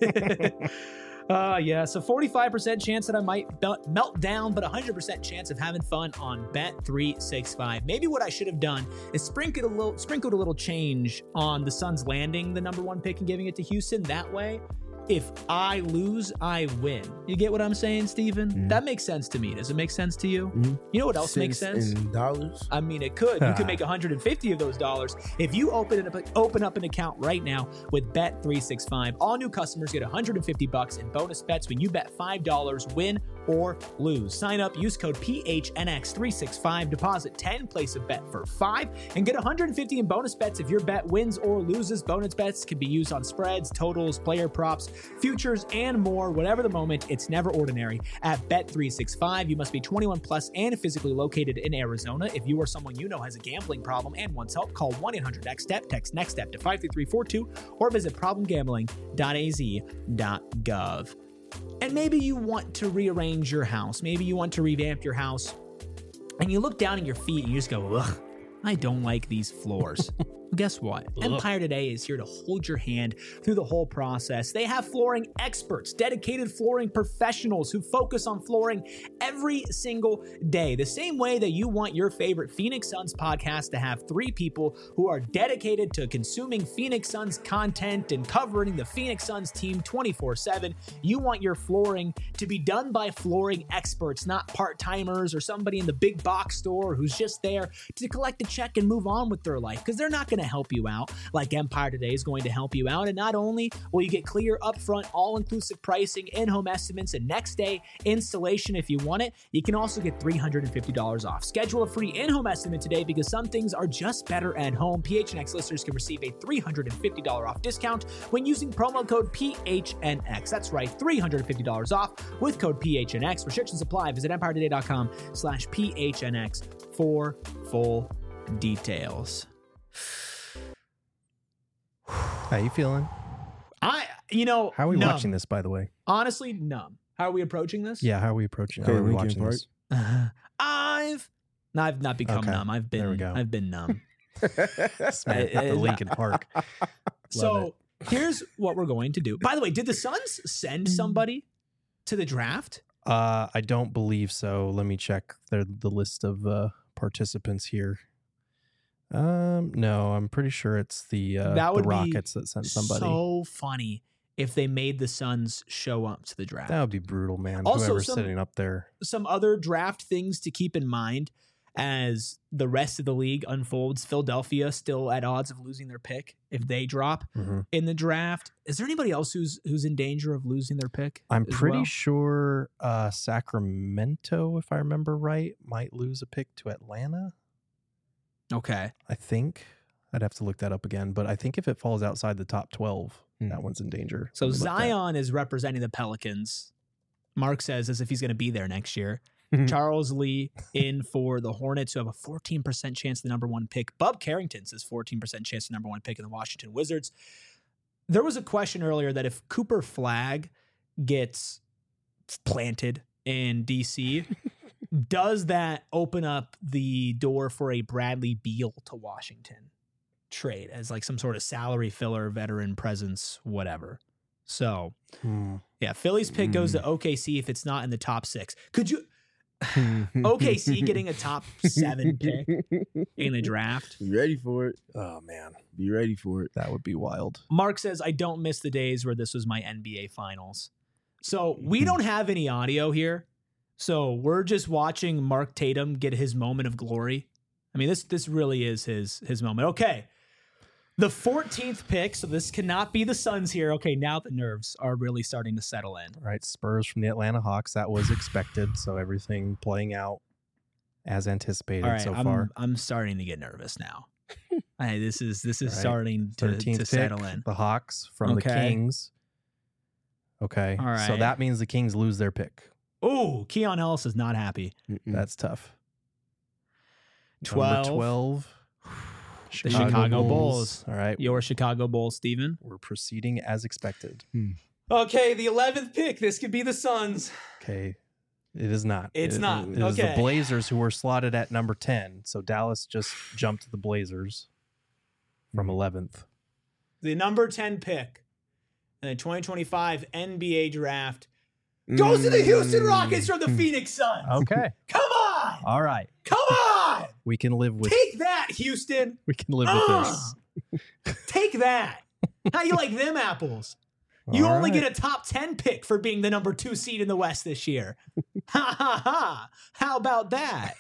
So 45% chance that I might melt down, but 100% chance of having fun on Bet365. Maybe what I should have done is sprinkled a little change on the Suns landing the number 1 pick and giving it to Houston. That way, if I lose, I win. You get what I'm saying, Steven? That makes sense to me. Does it make sense to you? You know what else makes sense? In dollars? I mean, it could. You could make 150 of those dollars if you open up an account right now with Bet365. All new customers get $150 in bonus bets when you bet $5, win or lose. Sign up, use code PHNX365, deposit 10, place a bet for 5, and get $150 in bonus bets if your bet wins or loses. Bonus bets can be used on spreads, totals, player props, futures, and more. Whatever the moment, it's never ordinary at Bet365. You must be 21 plus and physically located in Arizona. If you or someone you know has a gambling problem and wants help, call 1-800-NEXT-STEP, text NEXT-STEP to 53342, or visit problemgambling.az.gov. And maybe you want to rearrange your house. Maybe you want to revamp your house, and you look down at your feet and you just go, ugh, I don't like these floors. Guess what? Empire Today is here to hold your hand through the whole process. They have flooring experts, dedicated flooring professionals who focus on flooring every single day. The same way that you want your favorite Phoenix Suns podcast to have 3 people who are dedicated to consuming Phoenix Suns content and covering the Phoenix Suns team 24/7. You want your flooring to be done by flooring experts, not part-timers or somebody in the big box store who's just there to collect a check and move on with their life, because they're not going to help you out like Empire Today is going to help you out. And not only will you get clear, upfront, all-inclusive pricing, in-home estimates, and next-day installation if you want it, you can also get $350 off. Schedule a free in-home estimate today, because some things are just better at home. PHNX listeners can receive a $350 off discount when using promo code PHNX. That's right, $350 off with code PHNX. Restrictions apply. Visit EmpireToday.com/PHNX for full details. How you feeling? How are we watching this, by the way? Honestly, numb. How are we approaching this? Yeah, how are we approaching? Okay, how are we Linkin watching Park. this? I've not become numb. I've There we go. been numb. Smack the Linkin Park. So here's what we're going to do. By the way, did the Suns send somebody to the draft? I don't believe so. Let me check the list of participants here. No, I'm pretty sure it's the Rockets that sent somebody. So funny if they made the Suns show up to the draft. That would be brutal, man. Also, Whoever's sitting up there. Some other draft things to keep in mind. as the rest of the league unfolds. Philadelphia still at odds of losing their pick if they drop in the draft. Is there anybody else who's in danger of losing their pick? I'm as pretty well? sure Sacramento, if I remember right, might lose a pick to Atlanta. Okay. I think. I'd have to look that up again. But I think if it falls outside the top 12, that one's in danger. So Let me look that. Zion is representing the Pelicans. Mark says as if he's going to be there next year. Charles Lee in for the Hornets, who have a 14% chance of the number 1 pick. Bub Carrington says 14% chance of the number 1 pick in the Washington Wizards. There was a question earlier that if Cooper Flagg gets planted in DC, does that open up the door for a Bradley Beal to Washington trade as like some sort of salary filler, veteran presence, whatever? So, yeah, Philly's pick goes to OKC if it's not in the top 6. Could you... OKC getting a top 7 pick in the draft? Be ready for it. Oh, man. Be ready for it. That would be wild. Mark says, I don't miss the days where this was my NBA finals. So we don't have any audio here. So we're just watching Mark Tatum get his moment of glory. I mean, this really is his moment. Okay. The 14th pick, so this cannot be the Suns here. Okay, now the nerves are really starting to settle in. All right, Spurs from the Atlanta Hawks. That was expected, so everything playing out as anticipated All right, so far. I'm starting to get nervous now. This is Right. starting to 13th pick, settle in. the Hawks from the Okay. Kings. Okay, All so right. that means the Kings lose their pick. Oh, Keon Ellis is not happy. That's tough. 12. Number 12. The Chicago Bulls. All right, Your Chicago Bulls, Steven. we're proceeding as expected. Okay, the 11th pick. This could be the Suns. Okay, it is not. It's not. It is the Okay. Blazers who were slotted at number 10. So Dallas just jumped the Blazers from 11th. The number 10 pick in the 2025 NBA draft goes to the Houston Rockets from the Phoenix Suns. Okay, Come on. all right, Come on. we can live with. Take that, Houston. We can live with this. Take that. How you like them apples? You All only right. get a top 10 pick for being the number 2 seed in the West this year. Ha ha ha. How about that?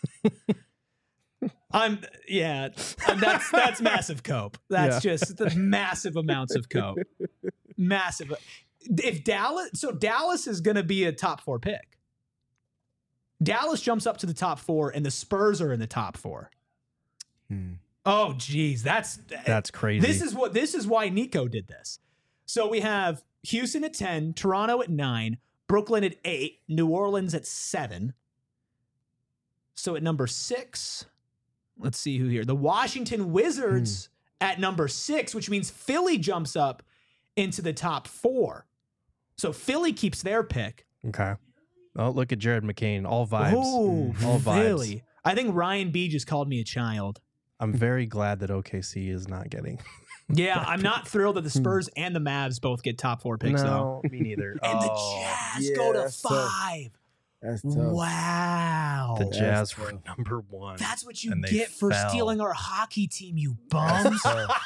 That's massive cope. That's just the massive amounts of cope. Massive. If Dallas is going to be a top 4 pick. Dallas jumps up to the top 4 and the Spurs are in the top 4. Oh geez, that's crazy. This is why Nico did this. So we have Houston at 10, Toronto at 9, Brooklyn at 8, New Orleans at 7. So at number 6, let's see who here. The Washington Wizards at number 6, which means Philly jumps up into the top 4. So Philly keeps their pick. Okay. Oh, look at Jared McCain. All vibes. Oh, all vibes. Philly. I think Ryan B just called me a child. I'm very glad that OKC is not getting. Yeah, I'm not thrilled that the Spurs and the Mavs both get top 4 picks, though. No, me neither. And the Oh, Jazz yeah, go to that's tough. 5. That's tough. Wow. the That's Jazz tough. were number 1. That's what you and they get for fell. stealing our hockey team, you bums.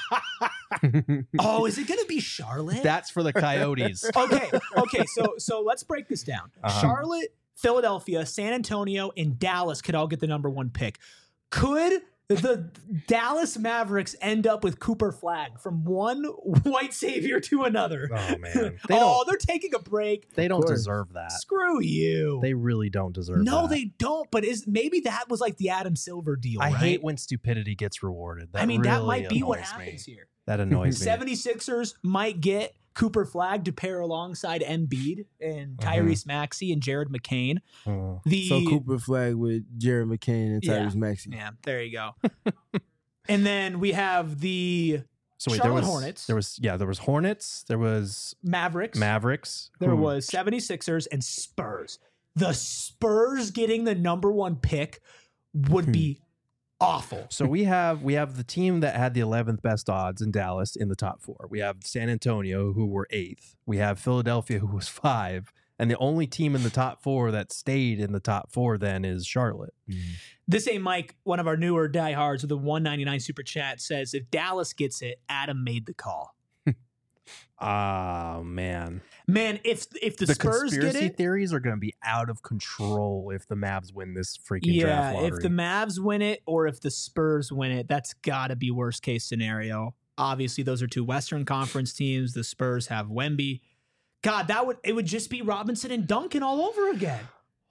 Oh, is it going to be Charlotte? That's for the Coyotes. Okay. So let's break this down. Uh-huh. Charlotte, Philadelphia, San Antonio, and Dallas could all get the number 1 pick. Could the Dallas Mavericks end up with Cooper Flagg from one white savior to another? Oh man, They're taking a break. they don't course. deserve that. Screw you. They really don't deserve that. No, they don't. But maybe that was like the Adam Silver deal, I right? hate when stupidity gets rewarded. That I mean, that really might be what annoys me. happens here. That annoys me. 76ers might get Cooper Flagg to pair alongside Embiid and Tyrese Maxey and Jared McCain. Oh. So Cooper Flagg with Jared McCain and Yeah. Tyrese Maxey. Yeah, there you go. And then we have the So wait, Charlotte there was Hornets. There was Hornets. There was Mavericks. Mavericks. There who- was 76ers and Spurs. The Spurs getting the number 1 pick would be awful. So we have the team that had the 11th best odds in Dallas in the top 4. We have San Antonio, who were 8th. We have Philadelphia, who was 5. And the only team in the top 4 that stayed in the top 4 then is Charlotte. This ain't Mike, one of our newer diehards with a $1.99 super chat, says if Dallas gets it, Adam made the call. Man. Man, if the Spurs get conspiracy it, theories are going to be out of control if the Mavs win this freaking draft lottery. if the Mavs win it or if the Spurs win it, that's got to be worst case scenario. Obviously, those are two Western Conference teams. The Spurs have Wemby. God, it would just be Robinson and Duncan all over again.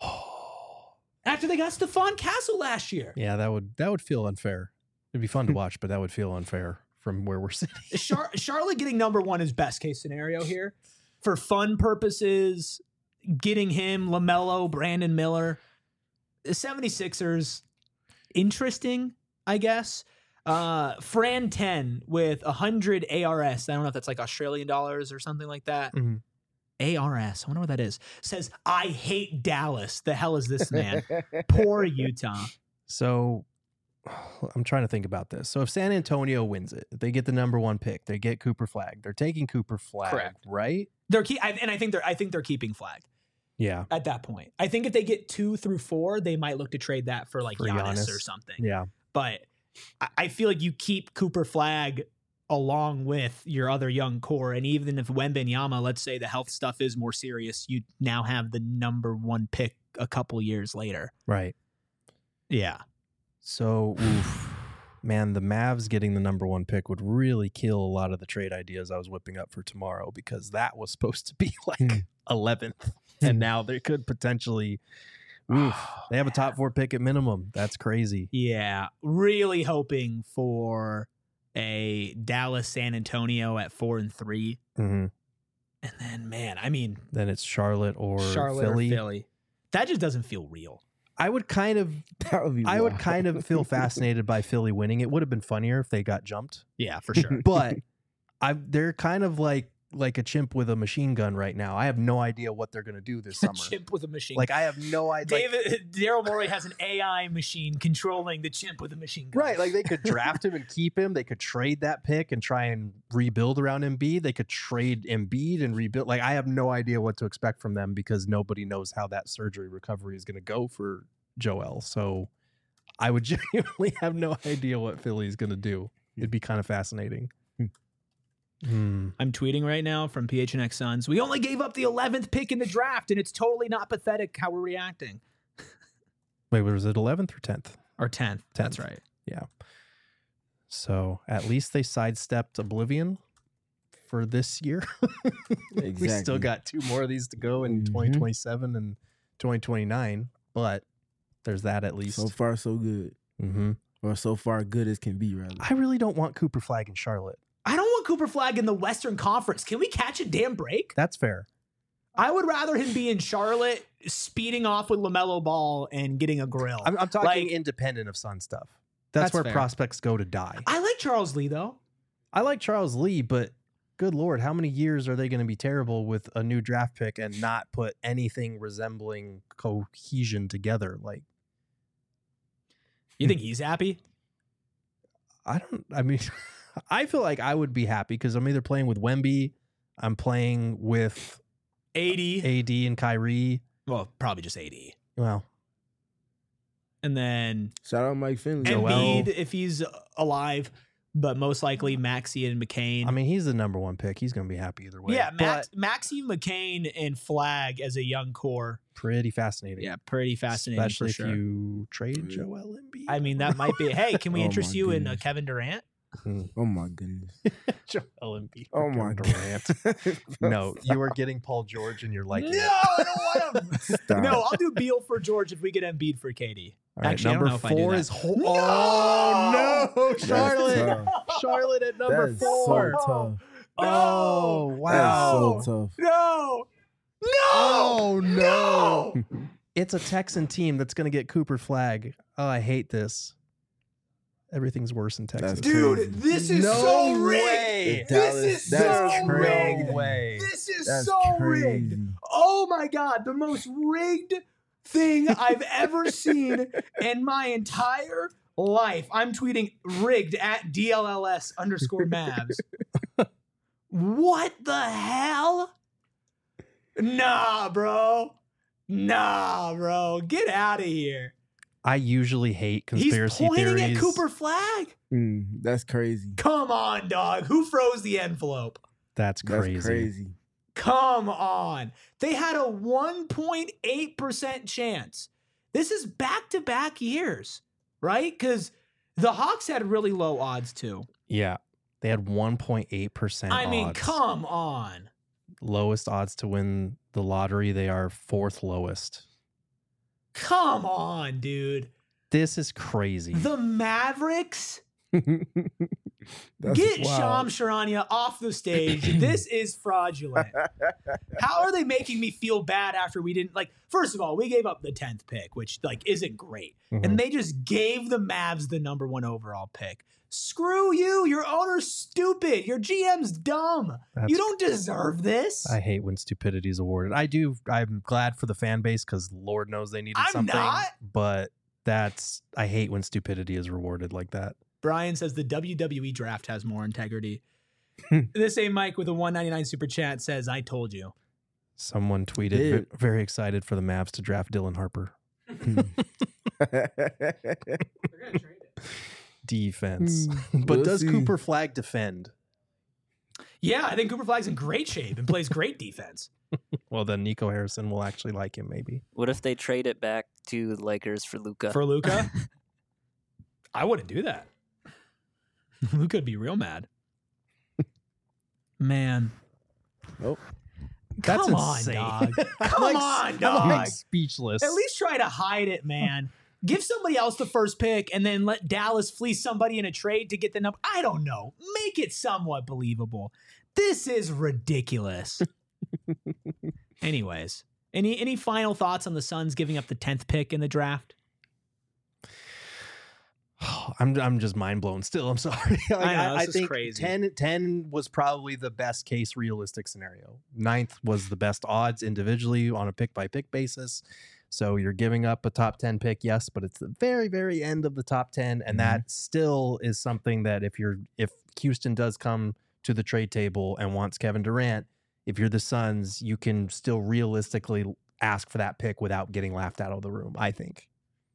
After they got Stephon Castle last year. Yeah, that would feel unfair. It'd be fun to watch, but that would feel unfair from where we're sitting. Charlotte getting number one is best case scenario here. For fun purposes, getting him, LaMelo, Brandon Miller. The 76ers, interesting, I guess. Fran 10 with 100 ARS. I don't know if that's like Australian dollars or something like that. Mm-hmm. ARS. I wonder what that is. Says, I hate Dallas. The hell is this man? Poor Utah. So I'm trying to think about this. So if San Antonio wins it, they get the number one pick. They get Cooper Flag. They're taking Cooper Flag, Correct. right? I think they're keeping Flag. Yeah. At that point, I think if they get 2 through 4, they might look to trade that for like Giannis or something. Yeah. But I feel like you keep Cooper Flag along with your other young core, and even if Wembanyama, let's say the health stuff is more serious, you now have the number one pick a couple years later. Right. Yeah. So, man, the Mavs getting the number one pick would really kill a lot of the trade ideas I was whipping up for tomorrow, because that was supposed to be like 11th, and now they could potentially. They have a top 4 pick at minimum. That's crazy. Yeah. Really hoping for a Dallas San Antonio at 4 and 3. Mm-hmm. And then, man, I mean, then it's Charlotte or Philly. Philly. That just doesn't feel real. I would kind of feel fascinated by Philly winning. It would have been funnier if they got jumped. Yeah, for sure. But they're kind of like a chimp with a machine gun right now. I have no idea what they're going to do this summer. Chimp with a machine. Like, I have no idea. Daryl Morey has an AI machine controlling the chimp with a machine gun. Right. Like, they could draft him and keep him. They could trade that pick and try and rebuild around Embiid. They could trade Embiid and rebuild. Like, I have no idea what to expect from them, because nobody knows how that surgery recovery is going to go for Joel. So I would genuinely have no idea what Philly's going to do. It'd be kind of fascinating. I'm tweeting right now from PHNX Suns. We only gave up the 11th pick in the draft, and it's totally not pathetic how we're reacting. Wait, was it 11th or 10th? Or 10th. That's right. Yeah. So at least they sidestepped Oblivion for this year. Exactly. We still got 2 more of these to go in 2027 and 2029, but there's that at least. So far, so good. Mm-hmm. Or so far good as can be, rather. I really don't want Cooper Flag in Charlotte. I don't want Cooper Flag in the Western Conference. Can we catch a damn break? That's fair. I would rather him be in Charlotte, speeding off with LaMelo Ball and getting a grill. I'm talking Like, independent of Sun stuff. That's where fair. prospects go to die. I like Charles Lee, though. I like Charles Lee, but good Lord, how many years are they going to be terrible with a new draft pick and not put anything resembling cohesion together? Like, You think he's happy? I feel like I would be happy because I'm either playing with Wemby, I'm playing with 80. AD and Kyrie. Well, probably just 80. Well, And then Shout out Mike Finley. Embiid, if he's alive, but most likely Maxey and McCain. I mean, he's the number one pick. He's going to be happy either way. yeah, but Maxey, McCain, and Flag as a young core. pretty fascinating. Yeah, pretty fascinating. Especially for if sure. you trade Joel Embiid. I mean, that might be. Hey, can we Oh interest my you in goodness. Kevin Durant? Oh my goodness. Joel Embiid. Oh my Durant. No, you are getting Paul George and you're liking No, it. I don't want him. Stop. No, I'll do Beal for George if we get Embiid for KD. All right, Actually, I don't number know if I do 4 that. is No! Oh no, That's Charlotte. tough. Charlotte at number That is 4. so tough. Oh That wow. is so tough. No. No. Oh no. No. It's a Texan team that's going to get Cooper Flag. Oh, I hate this. Everything's worse in Texas. That's Dude, crazy. this is No so rigged. way. This is That's so crazy. rigged. No way. This is That's so rigged. crazy. Oh my God, the most rigged thing I've ever seen in my entire life. I'm tweeting rigged at DLLS_Mavs. What the hell? Nah, bro. Get out of here. I usually hate conspiracy He's pointing theories. at Cooper Flag. That's crazy. Come on, dog. Who froze the envelope? That's crazy. That's crazy. Come on. They had a 1.8% chance. This is back-to-back years, right? Because the Hawks had really low odds too. Yeah. They had 1.8% I mean, odds. come on. Lowest odds to win the lottery. They are fourth lowest. Come on, dude. This is crazy. The Mavericks? That's Get wild. Shams Charania off the stage. This is fraudulent. How are they making me feel bad after we didn't first of all, we gave up the 10th pick, which isn't great. Mhm. And they just gave the Mavs the number 1 overall pick. Screw you. Your owner's stupid. Your GM's dumb. You don't deserve this. I hate when stupidity is awarded. I'm glad for the fan base because Lord knows they needed I'm something. not. But I hate when stupidity is rewarded like that. Brian says the WWE draft has more integrity. This same Mike with a $1.99 super chat says, I told you. Someone tweeted, Dude. very excited for the Mavs to draft Dylan Harper. Defense. But We'll does see. Cooper Flag defend? Yeah, I think Cooper Flag's in great shape and plays great defense. Well, then Nico Harrison will actually like him, maybe. What if they trade it back to the Lakers for Luka? For Luka, I wouldn't do that. Luka would be real mad. Man. Nope. That's Come on, insane. dog. I'm Come like- on, I'm dog. like speechless. At least try to hide it, man. Give somebody else the first pick and then let Dallas fleece somebody in a trade to get the number. I don't know. Make it somewhat believable. This is ridiculous. Anyways, any final thoughts on the Suns giving up the 10th pick in the draft? I'm just mind blown still. I'm sorry. I this is think crazy. 10 was probably the best case realistic scenario. 9th was the best odds individually on a pick by pick basis. So you're giving up a top 10 pick, yes, but it's the very, very end of the top 10. And that still is something that if Houston does come to the trade table and wants Kevin Durant, if you're the Suns, you can still realistically ask for that pick without getting laughed out of the room, I think.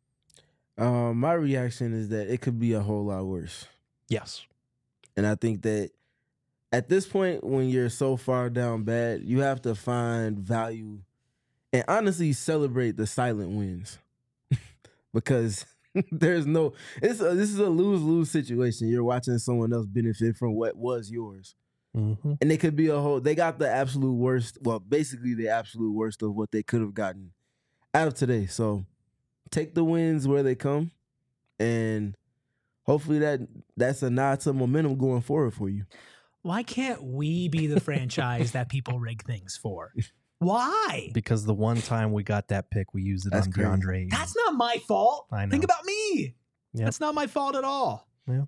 My reaction is that it could be a whole lot worse. Yes. And I think that at this point, when you're so far down bad, you have to find value and honestly celebrate the silent wins. Because this is a lose-lose situation. You're watching someone else benefit from what was yours. Mm-hmm. And it could be they got the absolute worst, well, basically the absolute worst of what they could have gotten out of today. So take the wins where they come, and hopefully that's a nod to momentum going forward for you. Why can't we be the franchise that people rig things for? Why? Because the one time we got that pick, we used it That's on crazy. DeAndre Ayton. That's not my fault. I know. Think about me. Yep. That's not my fault at all. Yeah.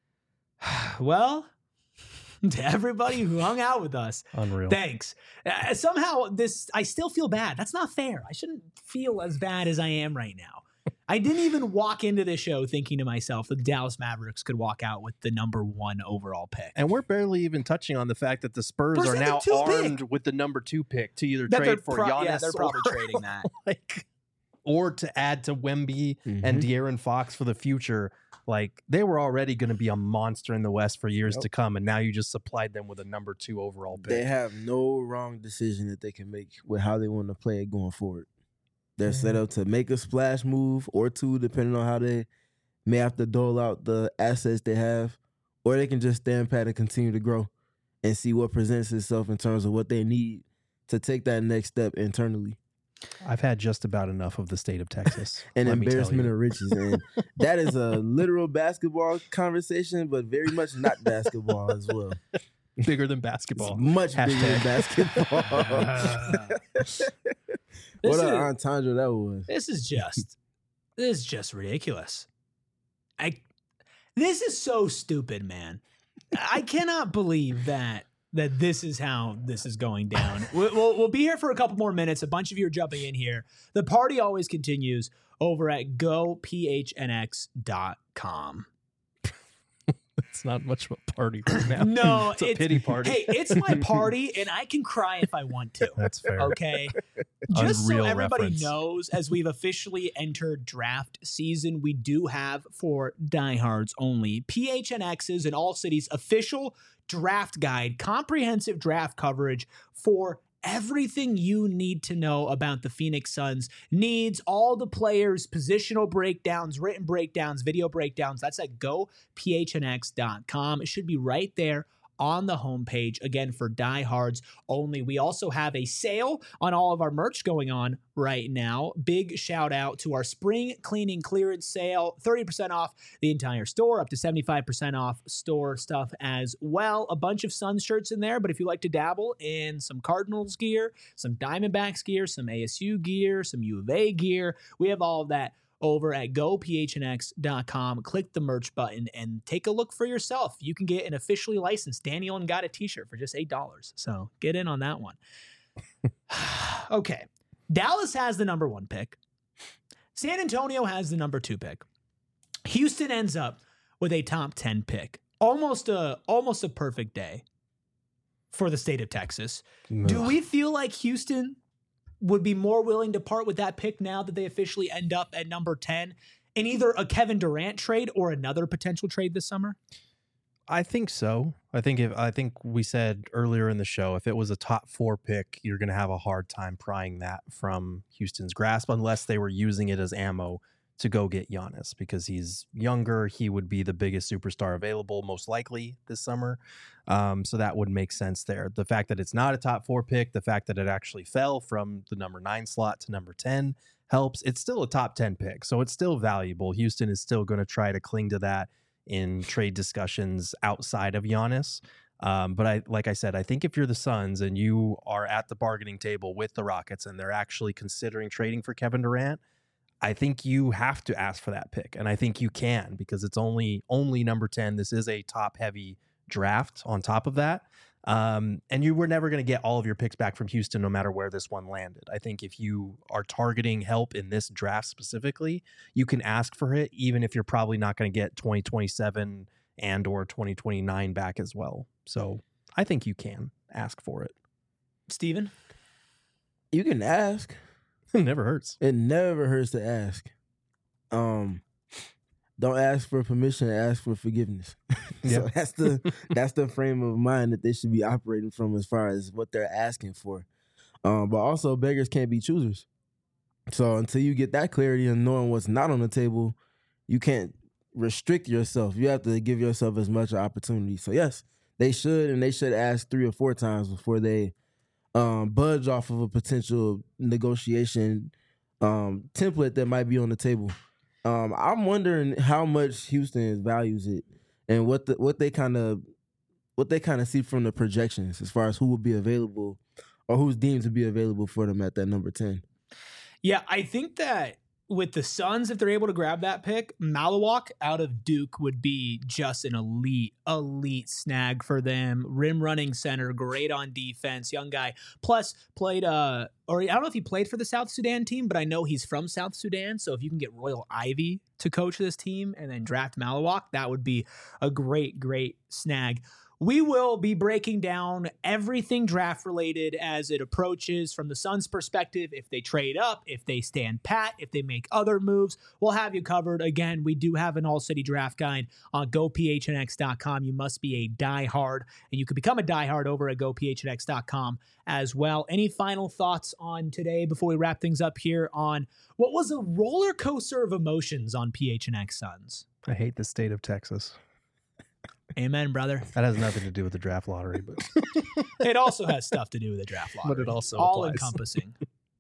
Well, to everybody who hung out with us, Unreal. thanks. Somehow I still feel bad. That's not fair. I shouldn't feel as bad as I am right now. I didn't even walk into this show thinking to myself that the Dallas Mavericks could walk out with the number 1 overall pick. And we're barely even touching on the fact that the Spurs Where's are the now 2 pick? armed with the number 2 pick to either That they're trade for pro- Giannis yeah, they're probably or, trading that. or to add to Wemby and De'Aaron Fox for the future. Like, they were already going to be a monster in the West for years to come, and now you just supplied them with a number 2 overall pick. They have no wrong decision that they can make with how they want to play it going forward. They're set up to make a splash move or 2, depending on how they may have to dole out the assets they have, or they can just stand pat and continue to grow and see what presents itself in terms of what they need to take that next step internally. I've had just about enough of the state of Texas. An let me tell embarrassment you. of riches. And that is a literal basketball conversation, but very much not basketball as well. Bigger than It's basketball. much bigger than Hashtag. basketball. What an entendre that was. This is just ridiculous. This is so stupid, man. I cannot believe that this is how this is going down. We'll be here for a couple more minutes. A bunch of you are jumping in here. The party always continues over at gophnx.com. It's not much of a party right now. No, it's a pity party. Hey, it's my party, and I can cry if I want to. That's fair. Okay. Just so Unreal everybody reference. knows, as we've officially entered draft season, we do have, for diehards only, PHNX's and All Cities official draft guide, comprehensive draft coverage for everything you need to know about the Phoenix Suns. Needs all the players, positional breakdowns, written breakdowns, video breakdowns. That's at gophnx.com. It should be right there on the homepage, again, for diehards only. We also have a sale on all of our merch going on right now. Big shout out to our spring cleaning clearance sale, 30% off the entire store, up to 75% off store stuff as well. A bunch of Suns shirts in there, but if you like to dabble in some Cardinals gear, some Diamondbacks gear, some ASU gear, some U of A gear, we have all of that over at gophnx.com. Click the merch button and take a look for yourself. You can get an officially licensed Daniel and Got a t-shirt for just $8. So get in on that one. Okay. Dallas has the number 1 pick. San Antonio has the number 2 pick. Houston ends up with a top 10 pick. Almost a perfect day for the state of Texas. Do we feel like Houston would be more willing to part with that pick now that they officially end up at number 10 in either a Kevin Durant trade or another potential trade this summer? I think so. I think we said earlier in the show, if it was a top 4 pick, you're going to have a hard time prying that from Houston's grasp unless they were using it as ammo to go get Giannis, because he's younger. He would be the biggest superstar available most likely this summer. So that would make sense there. The fact that it's not a top 4 pick, the fact that it actually fell from the number 9 slot to number 10 helps. It's still a top 10 pick, so it's still valuable. Houston is still going to try to cling to that in trade discussions outside of Giannis. But like I said, I think if you're the Suns and you are at the bargaining table with the Rockets and they're actually considering trading for Kevin Durant, I think you have to ask for that pick. And I think you can, because it's only number 10. This is a top heavy draft on top of that. And you were never going to get all of your picks back from Houston, no matter where this one landed. I think if you are targeting help in this draft specifically, you can ask for it, even if you're probably not going to get 2027 and or 2029 back as well. So I think you can ask for it. Steven? You can ask. It never hurts. It never hurts to ask. Don't ask for permission, ask for forgiveness. So that's the frame of mind that they should be operating from as far as what they're asking for. But also, beggars can't be choosers. So until you get that clarity and knowing what's not on the table, you can't restrict yourself. You have to give yourself as much opportunity. So yes, they should ask 3 or 4 times before they budge off of a potential negotiation template that might be on the table. I'm wondering how much Houston values it and what they kind of see from the projections as far as who will be available or who's deemed to be available for them at that number 10. Yeah, I think that with the Suns, if they're able to grab that pick, Malawak out of Duke would be just an elite snag for them. Rim running center, great on defense, young guy. Plus played, or I don't know if he played for the South Sudan team, but I know he's from South Sudan. So if you can get Royal Ivy to coach this team and then draft Malawak, that would be a great snag. We will be breaking down everything draft related as it approaches from the Suns' perspective. If they trade up, if they stand pat, if they make other moves, we'll have you covered. Again, we do have an all-city draft guide on gophnx.com. You must be a diehard, and you can become a diehard over at gophnx.com as well. Any final thoughts on today before we wrap things up here on what was a roller coaster of emotions on PHNX Suns? I hate the state of Texas. Amen, brother. That has nothing to do with the draft lottery, but it also has stuff to do with the draft lottery. But it also all applies. Encompassing.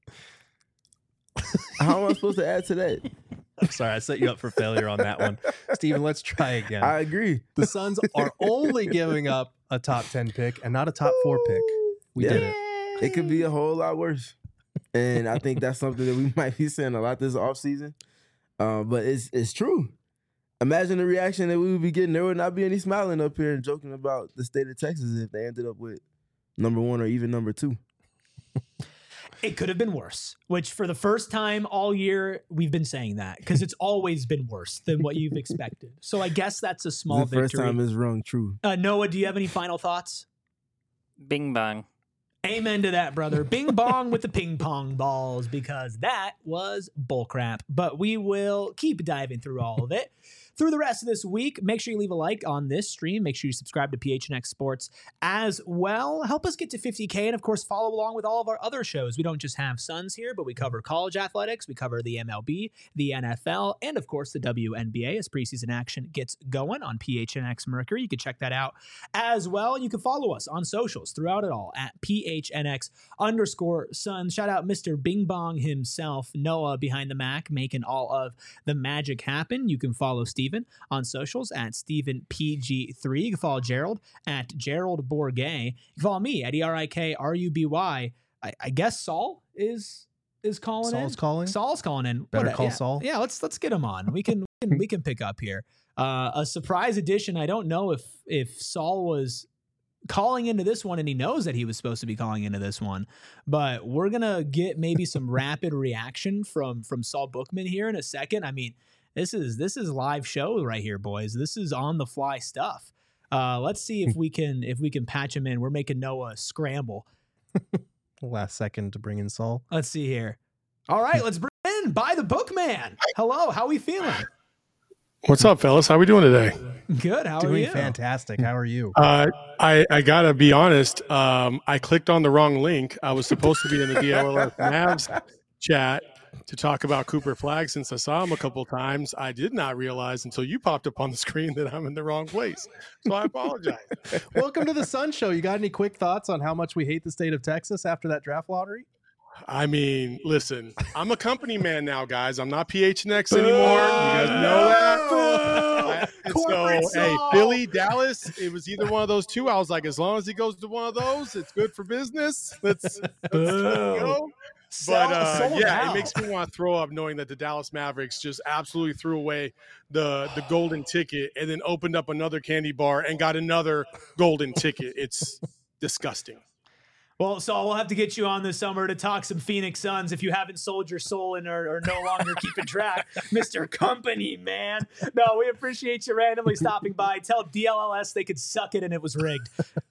How am I supposed to add to that? I'm sorry, I set you up for failure on that one. Steven, let's try again. I agree. The Suns are only giving up a top 10 pick and not a top 4 pick. We did it. It could be a whole lot worse. And I think that's something that we might be saying a lot this offseason. But it's true. Imagine the reaction that we would be getting. There would not be any smiling up here and joking about the state of Texas if they ended up with number 1 or even number 2. It could have been worse, which for the first time all year, we've been saying that because it's always been worse than what you've expected. So I guess that's a small victory. The first time is rung true. Noah, do you have any final thoughts? Bing bang. Amen to that, brother. Bing bong with the ping pong balls, because that was bullcrap. But we will keep diving through all of it. Through the rest of this week, make sure you leave a like on this stream. Make sure you subscribe to PHNX Sports as well. Help us get to 50K, and of course, follow along with all of our other shows. We don't just have Suns here, but we cover college athletics. We cover the MLB, the NFL, and of course, the WNBA as preseason action gets going on PHNX Mercury. You can check that out as well. You can follow us on socials throughout it all at PHNX_Suns. Shout out Mr. Bing Bong himself, Noah behind the Mac, making all of the magic happen. You can follow Steven on socials at StephenPG3. You can follow Gerald at Gerald Bourget. You can follow me at ERIKRUBY. I guess Saul is calling Saul's in. calling? Saul's calling in. Better What- call yeah, Saul. Yeah, let's get him on. We can pick up here. A surprise edition. I don't know if Saul was calling into this one and he knows that he was supposed to be calling into this one, but we're gonna get maybe some rapid reaction from Saul Bookman here in a second. I mean, this is live show right here, boys. This is on the fly stuff. Let's see if we can patch him in. We're making Noah scramble. Last second to bring in Saul. Let's see here. All right, let's bring in By the Bookman. Hello, how we feeling? What's up, fellas? How we doing today? Good. How are Doing you? fantastic. How are you? I gotta be honest. I clicked on the wrong link. I was supposed to be in the DLLS Mavs chat to talk about Cooper Flagg. Since I saw him a couple times, I did not realize until you popped up on the screen that I'm in the wrong place. So I apologize. Welcome to the Sun Show. You got any quick thoughts on how much we hate the state of Texas after that draft lottery? I mean, listen, I'm a company man now, guys. I'm not PHNX anymore. You guys know that. Corporate Hey, Saul. Philly, Dallas, it was either one of those two. I was like, as long as he goes to one of those, it's good for business. Let's go. But Sold yeah, out. it makes me want to throw up knowing that the Dallas Mavericks just absolutely threw away the golden ticket and then opened up another candy bar and got another golden ticket. It's disgusting. Well, Saul, we'll have to get you on this summer to talk some Phoenix Suns if you haven't sold your soul and are no longer keeping track, Mr. Company, man. No, we appreciate you randomly stopping by. Tell DLLS they could suck it and it was rigged.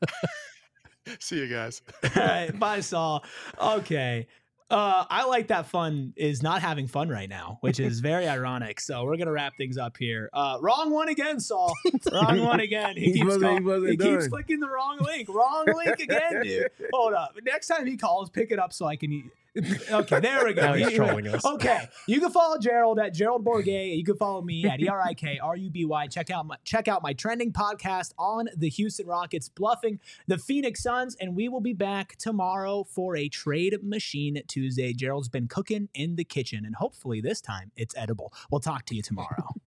See you guys. All right, bye, Saul. Okay. I like that fun is not having fun right now, which is very ironic. So we're gonna wrap things up here. Wrong one again, Saul. Wrong one again. He keeps clicking the wrong link. Wrong link again, dude. Hold up. Next time he calls, pick it up so I can. Okay, there we go. Now he's trolling us. Okay, you can follow Gerald at Gerald Bourget. You can follow me at ERIKRUBY. Check out my trending podcast on the Houston Rockets bluffing the Phoenix Suns, and we will be back tomorrow for a Trade Machine Tuesday. Gerald's been cooking in the kitchen, and hopefully this time it's edible. We'll talk to you tomorrow.